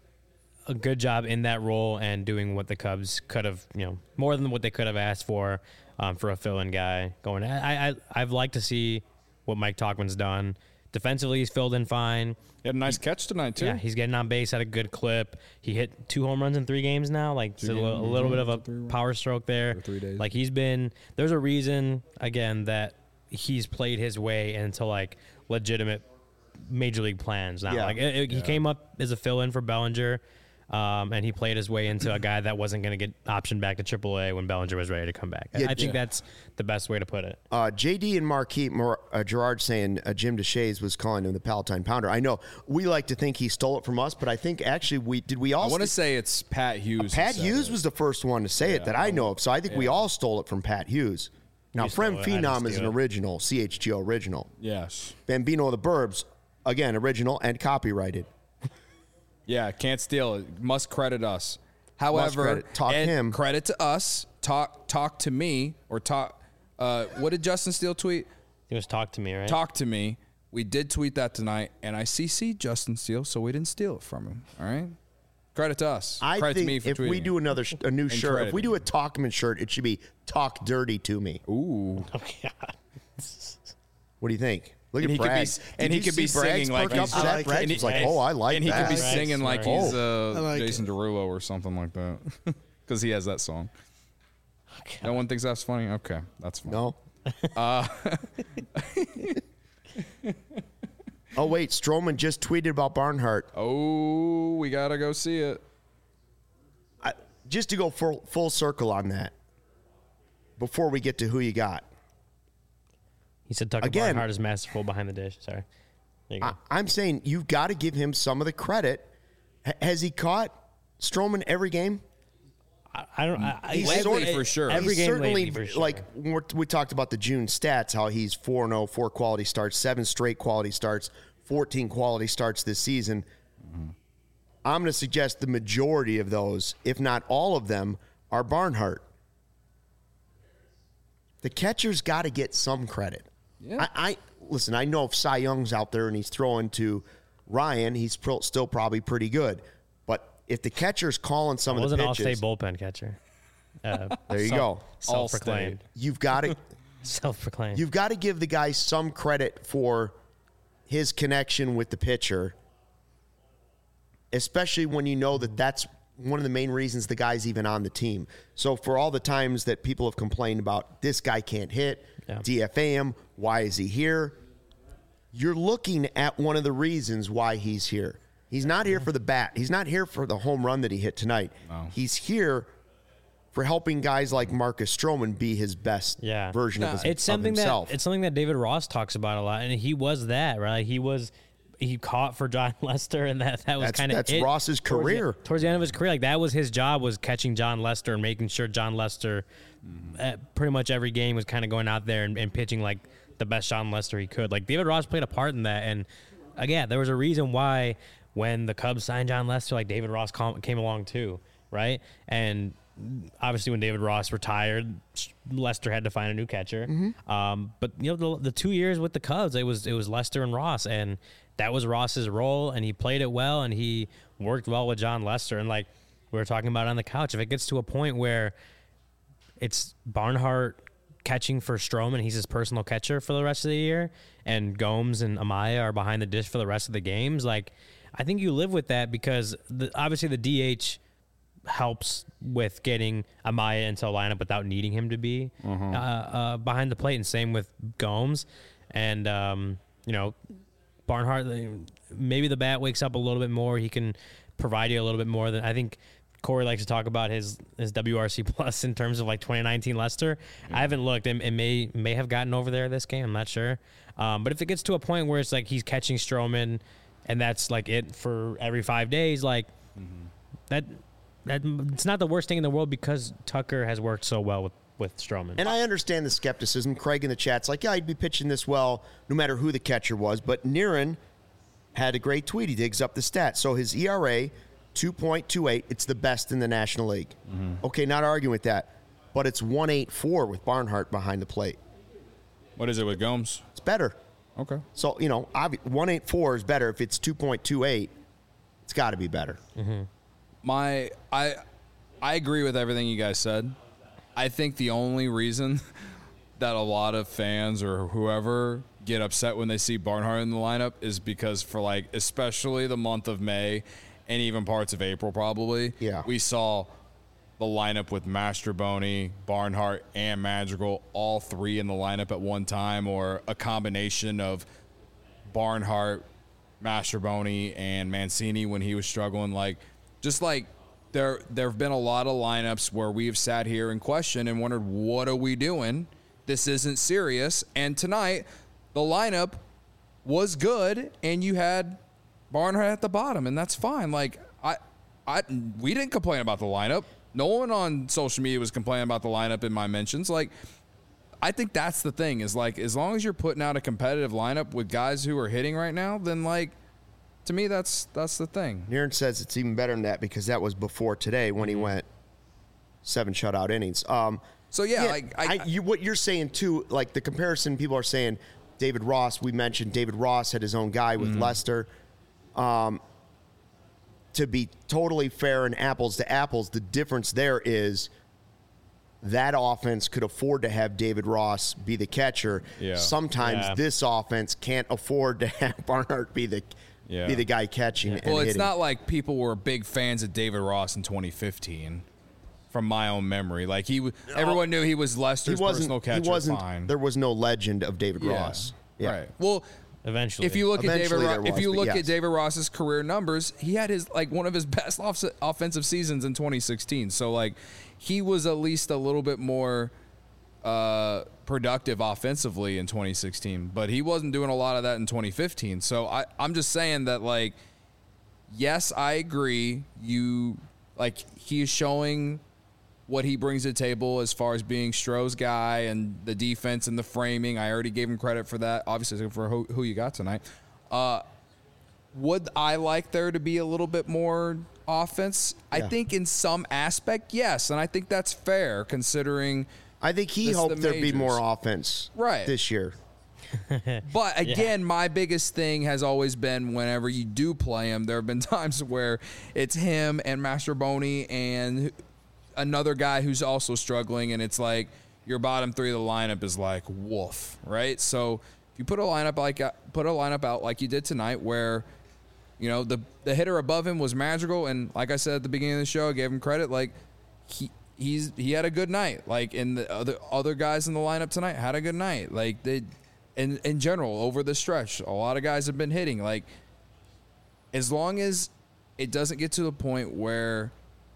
Speaker 2: a good job in that role and doing what the Cubs could have, more than what they could have asked for a fill-in guy going. I've liked to see what Mike Talkman's done. Defensively, he's filled in fine.
Speaker 4: He had a nice catch tonight too.
Speaker 2: Yeah, he's getting on base at a good clip. He hit 2 home runs in 3 games now. Like it's a little bit of a power stroke there.
Speaker 4: 3 days.
Speaker 2: Like there's a reason again that he's played his way into like legitimate major league plans now.
Speaker 1: Yeah.
Speaker 2: Like he came up as a fill-in for Bellinger, and he played his way into a guy that wasn't going to get optioned back to AAA when Bellinger was ready to come back. I think that's the best way to put it.
Speaker 1: JD and Marquis, Gerard saying Jim DeShays was calling him the Palatine Pounder. I know we like to think he stole it from us, but I think actually we all.
Speaker 4: I want to say it's Pat Hughes.
Speaker 1: Pat
Speaker 4: who said
Speaker 1: Hughes
Speaker 4: it.
Speaker 1: was the first one to say it that I know of, so I think we all stole it from Pat Hughes. Now,
Speaker 2: You stole
Speaker 1: Frem
Speaker 2: it. I didn't
Speaker 1: Phenom is an
Speaker 2: steal it.
Speaker 1: original, CHGO original.
Speaker 4: Yes.
Speaker 1: Bambino of the Burbs, again, original and copyrighted.
Speaker 4: Yeah, can't steal it. Must credit us. However,
Speaker 1: credit. Talk
Speaker 4: and
Speaker 1: him.
Speaker 4: credit to us. Talk to me or talk. What did Justin Steele tweet?
Speaker 2: He was talk to me, right?
Speaker 4: Talk to me. We did tweet that tonight, and I CC'd Justin Steele, so we didn't steal it from him. All right.
Speaker 3: Credit to us.
Speaker 1: I
Speaker 3: Credit to me
Speaker 1: think
Speaker 3: for
Speaker 1: if
Speaker 3: tweeting
Speaker 1: we
Speaker 3: it.
Speaker 1: do a new shirt, if
Speaker 3: crediting
Speaker 1: we do a Talkman shirt, it should be "Talk Dirty to Me."
Speaker 3: Ooh.
Speaker 2: Oh, God.
Speaker 1: What do you think? Look
Speaker 3: And
Speaker 1: at
Speaker 3: he could be-
Speaker 1: Bragg.
Speaker 3: and
Speaker 1: Did
Speaker 3: he
Speaker 1: you
Speaker 3: could be
Speaker 1: see Bragg's
Speaker 3: singing like
Speaker 1: perk up
Speaker 3: he's-
Speaker 1: to that?
Speaker 5: I like
Speaker 1: Bragg
Speaker 5: it.
Speaker 1: was like, "Oh, I like
Speaker 3: And he
Speaker 1: that."
Speaker 3: could be
Speaker 2: Bragg's
Speaker 3: singing like
Speaker 2: smart.
Speaker 3: he's
Speaker 5: like
Speaker 3: Jason Derulo or something like that. Because he has that song. No one thinks that's funny? Okay, that's fine.
Speaker 1: No. Oh wait, Strowman just tweeted about Barnhart.
Speaker 3: Oh, we got to go see it.
Speaker 1: Just to go full circle on that, before we get to who you got,
Speaker 2: He said Tucker
Speaker 1: Again-
Speaker 2: Barnhart is masterful behind the dish. Sorry. There you go.
Speaker 1: I'm saying you've got to give him some of the credit. Has he caught Strowman every game?
Speaker 2: I don't.
Speaker 1: He's
Speaker 3: lately
Speaker 1: sort-
Speaker 3: for sure.
Speaker 2: Every
Speaker 1: He's
Speaker 2: game
Speaker 1: certainly
Speaker 2: lately for sure.
Speaker 1: like we talked about the June stats, how he's 4-0, 4 quality starts, 7 straight quality starts, 14 quality starts this season. I'm going to suggest the majority of those, if not all of them, are Barnhart. The catcher's got to get some credit.
Speaker 3: Yeah.
Speaker 1: I listen. I know if Cy Young's out there and he's throwing to Ryan, he's still probably pretty good. But if the catcher's calling some
Speaker 2: It was
Speaker 1: of
Speaker 2: an
Speaker 1: the
Speaker 2: all-state
Speaker 1: pitches,
Speaker 2: bullpen catcher.
Speaker 1: there you go.
Speaker 2: Self-proclaimed.
Speaker 1: You've got to
Speaker 2: Self-proclaimed.
Speaker 1: You've got to give the guy some credit for his connection with the pitcher, especially when you know that that's one of the main reasons the guy's even on the team. So for all the times that people have complained about this guy can't hit,
Speaker 2: Yeah.
Speaker 1: DFA him, why is he here? You're looking at one of the reasons why he's here. He's not here for the bat. He's not here for the home run that he hit tonight. He's here for helping guys like Marcus Stroman be his best
Speaker 2: Yeah.
Speaker 1: version of,
Speaker 2: It's something
Speaker 1: himself.
Speaker 2: that David Ross talks about a lot, and he was that, right? He caught for John Lester, and that was kind of
Speaker 1: that's Ross's career.
Speaker 2: Towards the end of his career, like that was his job, was catching John Lester and making sure John Lester, at pretty much every game, was kind of going out there and pitching like the best John Lester he could. Like David Ross played a part in that, and again, there was a reason why when the Cubs signed John Lester, like David Ross came along too, right? And obviously, when David Ross retired, Lester had to find a new catcher. But you know, the 2 years with the Cubs, it was Lester and Ross, and that was Ross's role, and he played it well, and he worked well with John Lester. And like we were talking about on the couch, if it gets to a point where it's Barnhart catching for Stroman, he's his personal catcher for the rest of the year, and Gomes and Amaya are behind the dish for the rest of the games, like I think you live with that because obviously the DH helps with getting Amaya into a lineup without needing him to be behind the plate, and same with Gomes. And you know, Barnhart, maybe the bat wakes up a little bit more. He can provide you a little bit more than I think. Corey likes to talk about his WRC plus in terms of like 2019 Lester. I haven't looked. It may have gotten over there this game. I'm not sure. But if it gets to a point where it's like he's catching Stroman and that's like it for every 5 days, like that it's not the worst thing in the world because Tucker has worked so well with Stroman.
Speaker 1: And I understand the skepticism. Craig in the chat's like, yeah, I'd be pitching this well no matter who the catcher was. But Niren had a great tweet. He digs up the stats. So his ERA, 2.28. It's the best in the National League. Okay, not arguing with that. But it's 1.84 with Barnhart behind the plate.
Speaker 4: What is it with Gomes?
Speaker 1: It's better.
Speaker 4: Okay.
Speaker 1: So, 1.84 is better. If it's 2.28, it's got to be better.
Speaker 3: I agree with everything you guys said. I think the only reason that a lot of fans or whoever get upset when they see Barnhart in the lineup is because for like especially the month of May and even parts of April probably, we saw the lineup with Mastroboni, Barnhart, and Madrigal, all three in the lineup at one time, or a combination of Barnhart, Mastroboni, and Mancini when he was struggling. Like, just like there have been a lot of lineups where we've sat here and questioned and wondered, what are we doing? This isn't serious. And tonight, the lineup was good, and you had Barnhart at the bottom, and that's fine. Like, we didn't complain about the lineup. No one on social media was complaining about the lineup in my mentions. Like, I think that's the thing is, like, as long as you're putting out a competitive lineup with guys who are hitting right now, then, like, to me, that's the thing.
Speaker 1: Niren says it's even better than that because that was before today when he went 7 shutout innings.
Speaker 3: So, yeah,
Speaker 1: what you're saying, too, like the comparison people are saying, David Ross, we mentioned David Ross had his own guy with Lester. To to be totally fair and apples to apples, the difference there is that offense could afford to have David Ross be the catcher.
Speaker 4: Yeah.
Speaker 1: Sometimes this offense can't afford to have Barnhart be the guy catching. And
Speaker 4: Well, it's
Speaker 1: hitting.
Speaker 4: not like people were big fans of David Ross in 2015, from my own memory. Like everyone knew he was Lester's personal catcher.
Speaker 1: He wasn't.
Speaker 4: Fine.
Speaker 1: There was no legend of David Ross. Yeah.
Speaker 4: Right. Well,
Speaker 2: Eventually.
Speaker 4: if you look at David,
Speaker 1: Eventually there
Speaker 4: if
Speaker 1: was,
Speaker 4: you
Speaker 1: but
Speaker 4: look
Speaker 1: yes.
Speaker 4: at David Ross's career numbers, he had one of his best offensive seasons in 2016. So like, he was at least a little bit more productive offensively in 2016, but he wasn't doing a lot of that in 2015. So I'm just saying that, like, yes, I agree. He is showing what he brings to the table as far as being Stroh's guy and the defense and the framing. I already gave him credit for that, obviously, for who you got tonight. Would I like there to be a little bit more offense? I think in some aspect, yes, and I think that's fair considering.
Speaker 1: I think he
Speaker 4: This is
Speaker 1: hoped
Speaker 4: the
Speaker 1: there'd be more
Speaker 4: majors.
Speaker 1: offense
Speaker 4: Right.
Speaker 1: this year.
Speaker 4: But again, my biggest thing has always been whenever you do play him, there have been times where it's him and Mastroboni and another guy who's also struggling, and it's like your bottom three of the lineup is like woof, right? So if you put a lineup out like you did tonight, where you know the hitter above him was Madrigal, and like I said at the beginning of the show, I gave him credit. Like he had a good night. Like, and the other guys in the lineup tonight had a good night. Like they, in general over the stretch, a lot of guys have been hitting. Like, as long as it doesn't get to the point where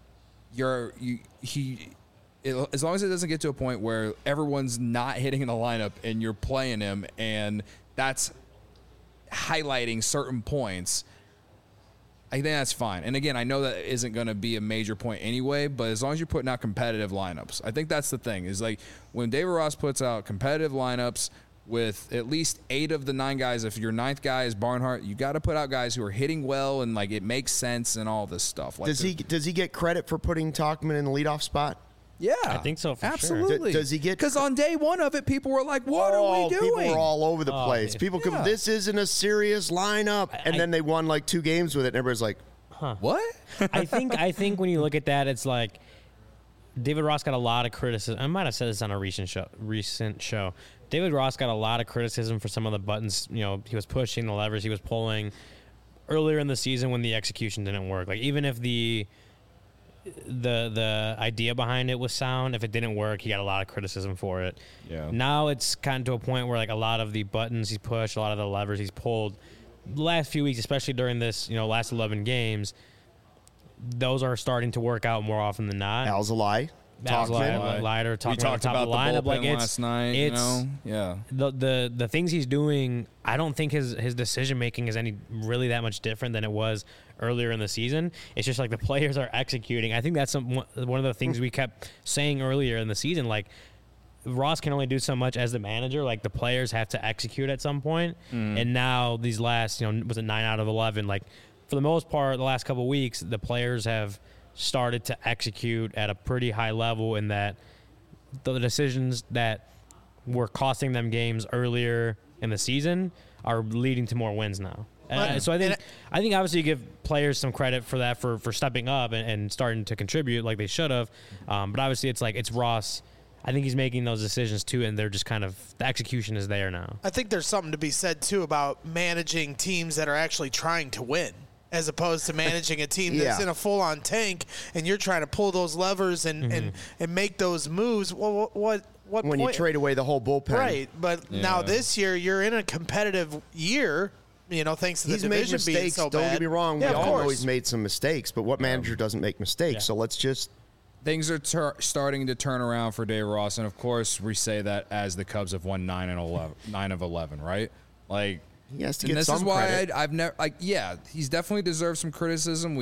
Speaker 4: as long as it doesn't get to a point where everyone's not hitting in the lineup and you're playing him, and that's highlighting certain points, I think that's fine. And again, I know that isn't going to be a major point anyway, but as long as you're putting out competitive lineups, I think that's the thing. Is like when David Ross puts out competitive lineups with at least 8 of the 9 guys, if your 9th guy is Barnhart, you got to put out guys who are hitting well and like it makes sense and all this stuff. Like,
Speaker 1: Does he get credit for putting Tauchman in the leadoff spot?
Speaker 4: Yeah,
Speaker 2: I think so, for sure.
Speaker 4: absolutely.
Speaker 1: Does he get?
Speaker 4: Because on day one of it, people were like, "What are we doing?"
Speaker 1: People were all over the place.
Speaker 2: yeah.
Speaker 1: People come, this isn't a serious lineup, and then they won like 2 games with it, and everybody's like,
Speaker 4: What?
Speaker 2: I think when you look at that, it's like David Ross got a lot of criticism. I might have said this on a recent show. David Ross got a lot of criticism for some of the buttons. You know, he was pushing, the levers he was pulling earlier in the season when the execution didn't work. Like, even if the idea behind it was sound, if it didn't work, he got a lot of criticism for it.
Speaker 4: Yeah.
Speaker 2: Now it's kind of to a point where like a lot of the buttons he's pushed, a lot of the levers he's pulled, the last few weeks, especially during this, last 11 games, those are starting to work out more often than not.
Speaker 1: Alzolay, Tauchman.
Speaker 2: Leiter,
Speaker 4: We talked about the
Speaker 2: lineup.
Speaker 4: bullpen last night. Yeah.
Speaker 2: The things he's doing, I don't think his decision making is any really that much different than it was earlier in the season. It's just like the players are executing. I think that's one of the things we kept saying earlier in the season. Like, Ross can only do so much as the manager. Like, the players have to execute at some point. And now these last, was it 9 out of 11? Like, for the most part, the last couple of weeks, the players have started to execute at a pretty high level, in that the decisions that were costing them games earlier in the season are leading to more wins now. So I think obviously you give players some credit for that, for stepping up and starting to contribute like they should have. But obviously it's Ross. I think he's making those decisions too, and they're just kind of, the execution is there now.
Speaker 5: I think there's something to be said too about managing teams that are actually trying to win, as opposed to managing a team that's in a full-on tank and you're trying to pull those levers and make those moves. Well, what
Speaker 1: When
Speaker 5: point?
Speaker 1: you trade away the whole bullpen.
Speaker 5: Right, but now this year you're in a competitive year, thanks to the
Speaker 1: He's made
Speaker 5: division being
Speaker 1: mistakes.
Speaker 5: so
Speaker 1: Don't
Speaker 5: bad.
Speaker 1: get me wrong.
Speaker 5: Yeah,
Speaker 1: We
Speaker 5: of
Speaker 1: all know
Speaker 5: course.
Speaker 1: he's made some mistakes, but what manager doesn't make mistakes?
Speaker 2: Yeah.
Speaker 1: So let's just.
Speaker 4: Things are starting to turn around for Dave Ross, and of course we say that as the Cubs have won 9 of 11, right? Like,
Speaker 1: He has to
Speaker 4: and
Speaker 1: get
Speaker 4: this
Speaker 1: some
Speaker 4: is why
Speaker 1: credit.
Speaker 4: I've never he's definitely deserved some criticism.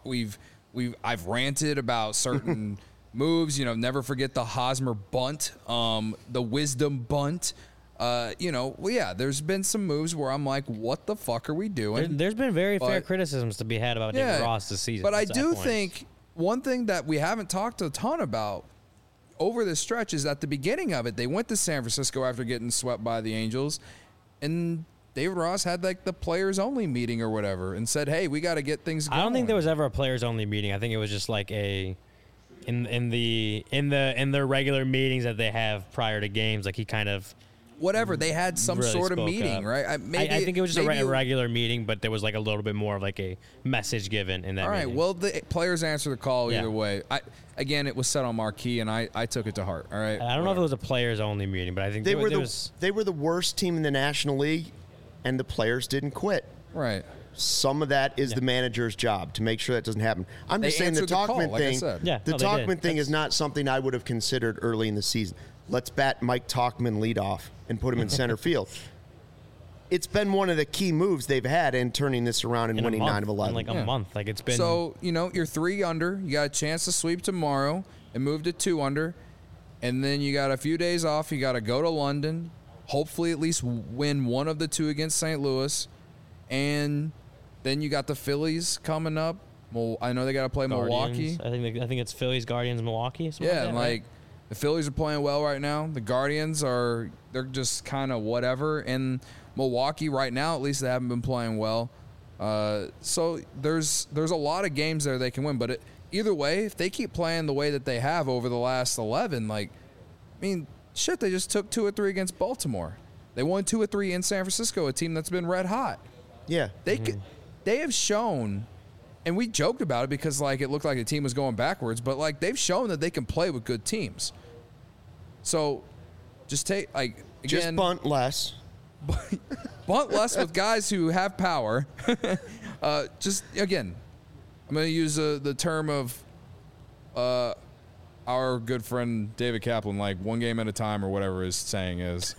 Speaker 4: I've ranted about certain moves. Never forget the Hosmer bunt, the Wisdom bunt. There's been some moves where I'm like, what the fuck are we doing?
Speaker 2: There's been very fair
Speaker 4: But-
Speaker 2: criticisms to be had about David Ross this season.
Speaker 4: But I
Speaker 2: at that
Speaker 4: do
Speaker 2: point.
Speaker 4: think one thing that we haven't talked a ton about over this stretch is at the beginning of it, they went to San Francisco after getting swept by the Angels, and
Speaker 3: David Ross had like the players only meeting or whatever and said, "Hey, we got to get things going."
Speaker 2: I don't think there was ever a players only meeting. I think it was just like in their regular meetings that they have prior to games. Like he kind of
Speaker 3: whatever they had some
Speaker 2: really
Speaker 3: sort of
Speaker 2: spoke
Speaker 3: meeting,
Speaker 2: up.
Speaker 3: right?
Speaker 2: I think it was just a
Speaker 3: maybe-
Speaker 2: regular meeting, but there was like a little bit more of like a message given in that.
Speaker 3: All right.
Speaker 2: meeting.
Speaker 3: Well, the players answer the call
Speaker 2: Yeah.
Speaker 3: either way. Again, it was set on marquee, and I took it to heart. All right.
Speaker 2: I don't know if it was a players only meeting, but I think
Speaker 1: They
Speaker 2: there
Speaker 1: were
Speaker 2: was.
Speaker 1: they were the worst team in the National League, and the players didn't quit.
Speaker 3: Right.
Speaker 1: Some of that is the manager's job to make sure that doesn't happen. I'm
Speaker 3: They
Speaker 1: just saying the
Speaker 3: answered the call,
Speaker 1: Talkman
Speaker 3: like I
Speaker 1: thing.
Speaker 3: said.
Speaker 2: Yeah,
Speaker 1: the
Speaker 2: no, they did.
Speaker 1: Talkman thing is not something I would have considered early in the season. Let's bat Mike Talkman lead off and put him in center field. It's been one of the key moves they've had in turning this around and
Speaker 2: in a
Speaker 1: winning
Speaker 2: month,
Speaker 1: 9 of 11.
Speaker 2: in like a
Speaker 3: Yeah.
Speaker 2: month. Like it's been.
Speaker 3: So, you're 3 under. You got a chance to sweep tomorrow and move to 2 under. And then you got a few days off. You got to go to London, hopefully at least win one of the 2 against St. Louis. And then you got the Phillies coming up. Well, I know they got to play Milwaukee.
Speaker 2: Guardians. I think it's Phillies, Guardians, Milwaukee. something
Speaker 3: Yeah,
Speaker 2: like that,
Speaker 3: and
Speaker 2: right?
Speaker 3: like the Phillies are playing well right now. The Guardians they're just kind of whatever. And Milwaukee right now, at least they haven't been playing well. So there's a lot of games there they can win. But either way, if they keep playing the way that they have over the last 11, like, I mean, shit, they just took 2 or 3 against Baltimore. They won 2 or 3 in San Francisco, a team that's been red hot.
Speaker 1: Yeah.
Speaker 3: They have shown, and we joked about it because like it looked like the team was going backwards, but like they've shown that they can play with good teams. So just take like
Speaker 1: Just
Speaker 3: again,
Speaker 1: bunt less.
Speaker 3: bunt less with guys who have power. Just again, I'm going to use the term of our good friend David Kaplan, like one game at a time or whatever his saying is.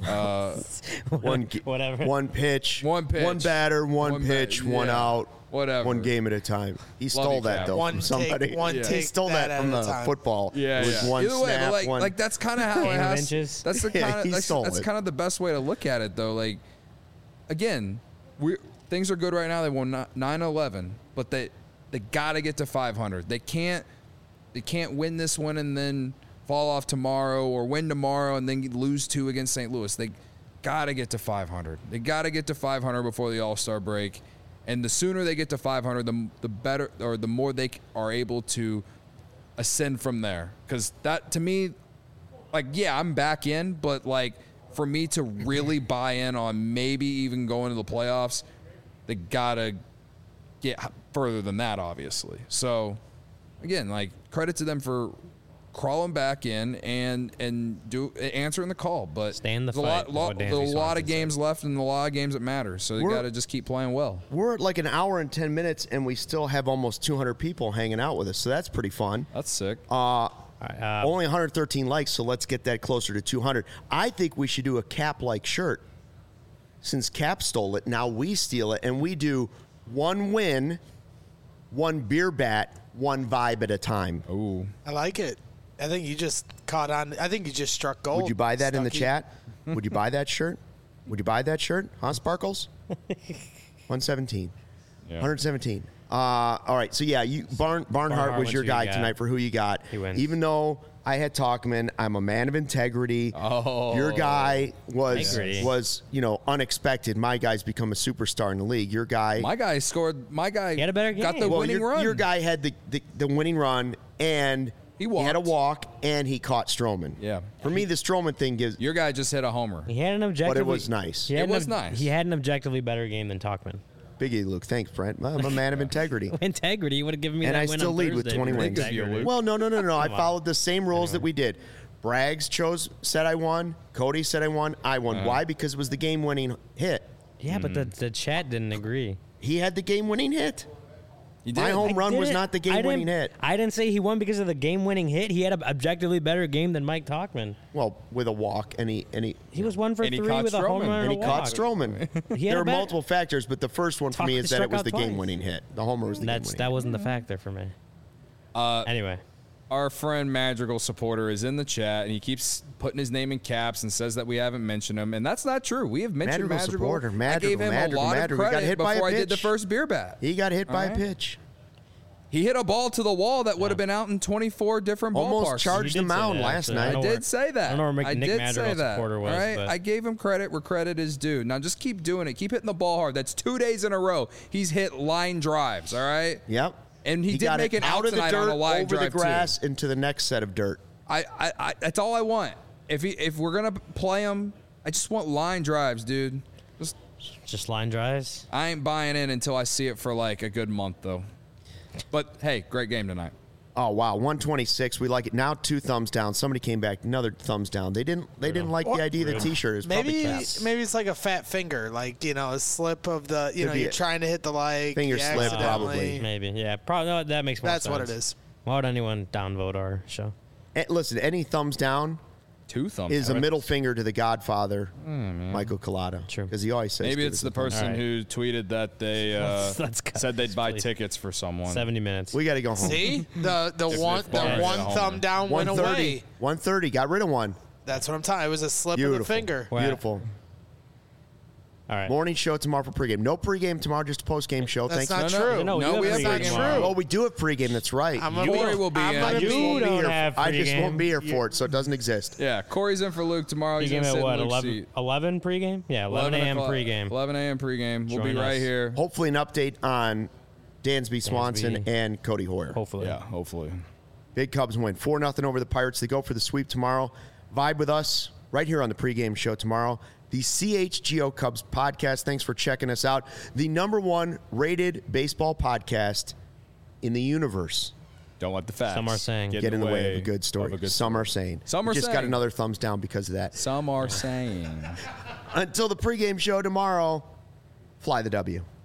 Speaker 2: Whatever.
Speaker 1: One pitch.
Speaker 3: One pitch.
Speaker 1: One batter. One
Speaker 3: One
Speaker 1: pitch.
Speaker 3: bat-
Speaker 1: One
Speaker 3: yeah.
Speaker 1: out.
Speaker 3: Whatever.
Speaker 1: One game at a time. He stole
Speaker 3: you,
Speaker 1: that
Speaker 3: Cap.
Speaker 1: though
Speaker 5: One
Speaker 1: from
Speaker 5: take-
Speaker 1: somebody.
Speaker 5: one
Speaker 1: He
Speaker 5: take
Speaker 1: stole
Speaker 5: that
Speaker 1: that from
Speaker 5: at a
Speaker 1: the
Speaker 5: time.
Speaker 1: football.
Speaker 3: Yeah,
Speaker 1: It was
Speaker 3: yeah.
Speaker 1: one
Speaker 3: Either way,
Speaker 1: snap.
Speaker 3: but like,
Speaker 1: one.
Speaker 3: like that's kind of how it
Speaker 2: Game of
Speaker 3: has.
Speaker 2: inches.
Speaker 3: That's the
Speaker 1: Yeah,
Speaker 3: kind
Speaker 1: he
Speaker 3: of
Speaker 1: stole
Speaker 3: that's
Speaker 1: it.
Speaker 3: kind of the best way to look at it, though. Like, again, things are good right now. They won 9-11, but they got to get to 500. They can't win this one and then fall off tomorrow, or win tomorrow and then lose 2 against St. Louis. They got to get to 500. They got to get to 500 before the All-Star break. And the sooner they get to 500, the better, or the more they are able to ascend from there. Because that, to me, like, yeah, I'm back in, but like for me to really buy in on maybe even going to the playoffs, they gotta get further than that, obviously. So, again, like, credit to them for crawling back in and answering the call. But
Speaker 2: Stay in the
Speaker 3: there's
Speaker 2: fight, is what
Speaker 3: there's
Speaker 2: Dansby
Speaker 3: a lot
Speaker 2: Swanson
Speaker 3: of games left and a lot of games that matter. So you got to just keep playing well.
Speaker 1: We're at like an hour and 10 minutes, and we still have almost 200 people hanging out with us. So that's pretty fun.
Speaker 3: That's sick.
Speaker 1: Only 113 likes, so let's get that closer to 200. I think we should do a Cap-like shirt. Since Cap stole it, now we steal it, and we do one win, one beer bat, one vibe at a time.
Speaker 3: Ooh.
Speaker 5: I like it. I think you just caught on. I think you just struck gold.
Speaker 1: Would you buy that in the
Speaker 5: Stuckey.
Speaker 1: chat? Would you buy that shirt? Would you buy that shirt? Huh, Sparkles? 117.
Speaker 4: Yeah.
Speaker 1: 117. All right, so yeah, Barnhart
Speaker 2: Barnhart
Speaker 1: was
Speaker 2: went
Speaker 1: your
Speaker 2: to
Speaker 1: guy
Speaker 2: you got.
Speaker 1: tonight for who you got.
Speaker 2: He wins.
Speaker 1: Even though I had Talkman, I'm a man of integrity.
Speaker 3: Oh.
Speaker 1: Your guy
Speaker 2: Integrity.
Speaker 1: was unexpected. My guy's become a superstar in the league. Your guy,
Speaker 3: My guy scored. My guy
Speaker 2: He had a better
Speaker 3: got
Speaker 2: game.
Speaker 3: the
Speaker 1: well,
Speaker 3: winning
Speaker 1: your,
Speaker 3: run.
Speaker 1: your guy had the winning run, and
Speaker 3: He
Speaker 1: had a
Speaker 3: walked.
Speaker 1: walk, and he caught Stroman.
Speaker 3: Yeah.
Speaker 1: For me, the Stroman thing gives.
Speaker 3: Your guy just hit a homer.
Speaker 2: He had an objectively.
Speaker 1: was nice.
Speaker 2: He had
Speaker 3: It
Speaker 2: an
Speaker 3: was nice.
Speaker 2: He had an objectively better game than Talkman.
Speaker 1: Biggie Luke, thanks, Brent. I'm a man of integrity.
Speaker 2: Integrity would have given me
Speaker 1: And
Speaker 2: that
Speaker 1: I
Speaker 2: win
Speaker 1: still
Speaker 2: on
Speaker 1: lead with
Speaker 2: Thursday
Speaker 1: 20
Speaker 2: for
Speaker 1: wins.
Speaker 2: integrity.
Speaker 1: Well, no. I
Speaker 2: Come on.
Speaker 1: followed the same rules that we did. Braggs said I won. Cody said I won. I won. Why? Because it was the game-winning hit.
Speaker 2: Yeah, but the chat didn't agree.
Speaker 1: He had the game-winning hit.
Speaker 3: You
Speaker 1: My
Speaker 3: did.
Speaker 1: home run was
Speaker 2: Didn't-
Speaker 1: not the
Speaker 2: I
Speaker 1: game-winning
Speaker 2: didn't-
Speaker 1: hit.
Speaker 2: I didn't say he won because of the game-winning hit. He had an objectively better game than Mike Talkman.
Speaker 1: Well, with a walk, and he
Speaker 2: He was 1 for
Speaker 3: And he
Speaker 2: 3
Speaker 3: caught
Speaker 2: with a home
Speaker 3: Stroman.
Speaker 2: run
Speaker 1: and
Speaker 2: and
Speaker 1: he
Speaker 2: a
Speaker 1: caught
Speaker 2: walk.
Speaker 1: Stroman.
Speaker 2: He had
Speaker 1: There
Speaker 2: a
Speaker 1: are
Speaker 2: bet-
Speaker 1: multiple factors, but the first one for me is that it was the
Speaker 2: Struck out twice.
Speaker 1: game-winning hit. The homer was the game-winning.
Speaker 2: That wasn't the factor for me. Anyway,
Speaker 3: Our friend Madrigal supporter is in the chat, and he keeps putting his name in caps and says that we haven't mentioned him, and that's not true. We have mentioned
Speaker 1: Madrigal
Speaker 3: Madrigal.
Speaker 1: supporter.
Speaker 3: I gave him a lot of
Speaker 1: Madrigal. He got
Speaker 3: credit
Speaker 1: hit by a
Speaker 3: before I did the
Speaker 1: pitch.
Speaker 3: first beer bat.
Speaker 1: He got hit by a
Speaker 3: All right.
Speaker 1: pitch.
Speaker 3: He hit a ball to the wall that would have been out in 24 different
Speaker 1: Almost
Speaker 3: ballparks.
Speaker 1: charged the mound last night.
Speaker 3: I did say that.
Speaker 2: I don't know where
Speaker 3: I
Speaker 2: Nick
Speaker 3: did
Speaker 2: Madrigal's
Speaker 3: say that.
Speaker 2: supporter was,
Speaker 3: All right,
Speaker 2: but-
Speaker 3: I gave him credit where credit is due. Now just keep doing it. Keep hitting the ball hard. That's 2 days in a row. He's hit line drives. All right.
Speaker 1: Yep.
Speaker 3: And he did
Speaker 1: got
Speaker 3: make
Speaker 1: it
Speaker 3: an
Speaker 1: out
Speaker 3: out
Speaker 1: of the
Speaker 3: tonight
Speaker 1: dirt,
Speaker 3: on a line
Speaker 1: over the
Speaker 3: drive, too.
Speaker 1: grass, into the next set of dirt.
Speaker 3: I that's all I want. If we're gonna play him, I just want line drives, dude.
Speaker 2: Just line drives.
Speaker 3: I ain't buying in until I see it for like a good month, though. But hey, great game tonight.
Speaker 1: Oh wow, 126. We like it now. 2 thumbs down. Somebody came back. Another thumbs down. They didn't like the idea of the T-shirt. Is
Speaker 5: Maybe
Speaker 1: probably cats.
Speaker 5: maybe it's like a fat finger, like a slip of the
Speaker 1: Could be
Speaker 5: you're
Speaker 1: it.
Speaker 5: trying to hit the like
Speaker 1: Finger
Speaker 5: you
Speaker 1: slip,
Speaker 5: accidentally-
Speaker 1: probably.
Speaker 2: Maybe. Yeah. Probably. No, that makes more sense.
Speaker 5: That's what it is.
Speaker 2: Why would anyone downvote our show?
Speaker 1: Listen, any thumbs down
Speaker 4: 2 thumbs.
Speaker 1: is a
Speaker 4: down.
Speaker 1: middle finger to the Godfather, Michael Collado.
Speaker 2: True.
Speaker 1: Because he always says.
Speaker 4: Maybe
Speaker 1: give
Speaker 4: it's
Speaker 1: us
Speaker 4: the
Speaker 1: a thumbs
Speaker 4: person
Speaker 2: Alright.
Speaker 4: who tweeted that they
Speaker 2: Let's go.
Speaker 4: said they'd buy
Speaker 2: Please.
Speaker 4: tickets for someone.
Speaker 2: 70 minutes.
Speaker 1: We got to go home.
Speaker 5: See the one
Speaker 4: Barnes
Speaker 5: one
Speaker 4: at home.
Speaker 5: thumb down went
Speaker 1: 130.
Speaker 5: away.
Speaker 1: 130. Got rid of one.
Speaker 5: That's what I'm talking. It was a slip of
Speaker 1: Beautiful.
Speaker 5: the finger.
Speaker 2: Wow.
Speaker 1: Beautiful.
Speaker 2: All right.
Speaker 1: Morning show tomorrow for pregame. No pregame tomorrow, just a postgame show.
Speaker 5: That's
Speaker 1: Thanks.
Speaker 5: not true.
Speaker 2: No,
Speaker 3: No,
Speaker 2: you
Speaker 3: we
Speaker 2: have
Speaker 3: have
Speaker 2: pregame
Speaker 3: pregame
Speaker 2: tomorrow.
Speaker 1: Oh, we do have pregame. That's right.
Speaker 5: I'm gonna
Speaker 3: Corey will be
Speaker 5: I'm
Speaker 3: in.
Speaker 5: gonna
Speaker 2: You
Speaker 5: be
Speaker 2: don't
Speaker 1: here.
Speaker 2: have
Speaker 1: I just
Speaker 2: pregame.
Speaker 1: won't be here for it, so it doesn't exist.
Speaker 3: Yeah, Corey's in for Luke tomorrow. He's
Speaker 2: Pregame
Speaker 3: gonna
Speaker 2: at
Speaker 3: sit
Speaker 2: what?
Speaker 3: in Luke's
Speaker 2: 11,
Speaker 3: seat.
Speaker 2: 11 pregame? Yeah, 11 a.m.
Speaker 3: o'clock-
Speaker 2: pregame.
Speaker 3: 11 a.m. pregame. We'll be
Speaker 2: Join
Speaker 3: right
Speaker 2: us.
Speaker 3: here.
Speaker 1: Hopefully, an update on Dansby Swanson
Speaker 2: Dansby.
Speaker 1: and Cody Hoyer.
Speaker 2: Hopefully.
Speaker 4: Yeah, hopefully.
Speaker 1: Big Cubs win 4-0 over the Pirates. They go for the sweep tomorrow. Vibe with us right here on the pregame show tomorrow. The CHGO Cubs podcast. Thanks for checking us out. The #1 rated baseball podcast in the universe.
Speaker 4: Don't let the facts
Speaker 2: Some are saying.
Speaker 1: Get in the way of a good story. Some are saying.
Speaker 3: Some are
Speaker 1: just got
Speaker 3: saying.
Speaker 1: another thumbs down because of that.
Speaker 3: Some are saying.
Speaker 1: Until the pregame show tomorrow, fly the W.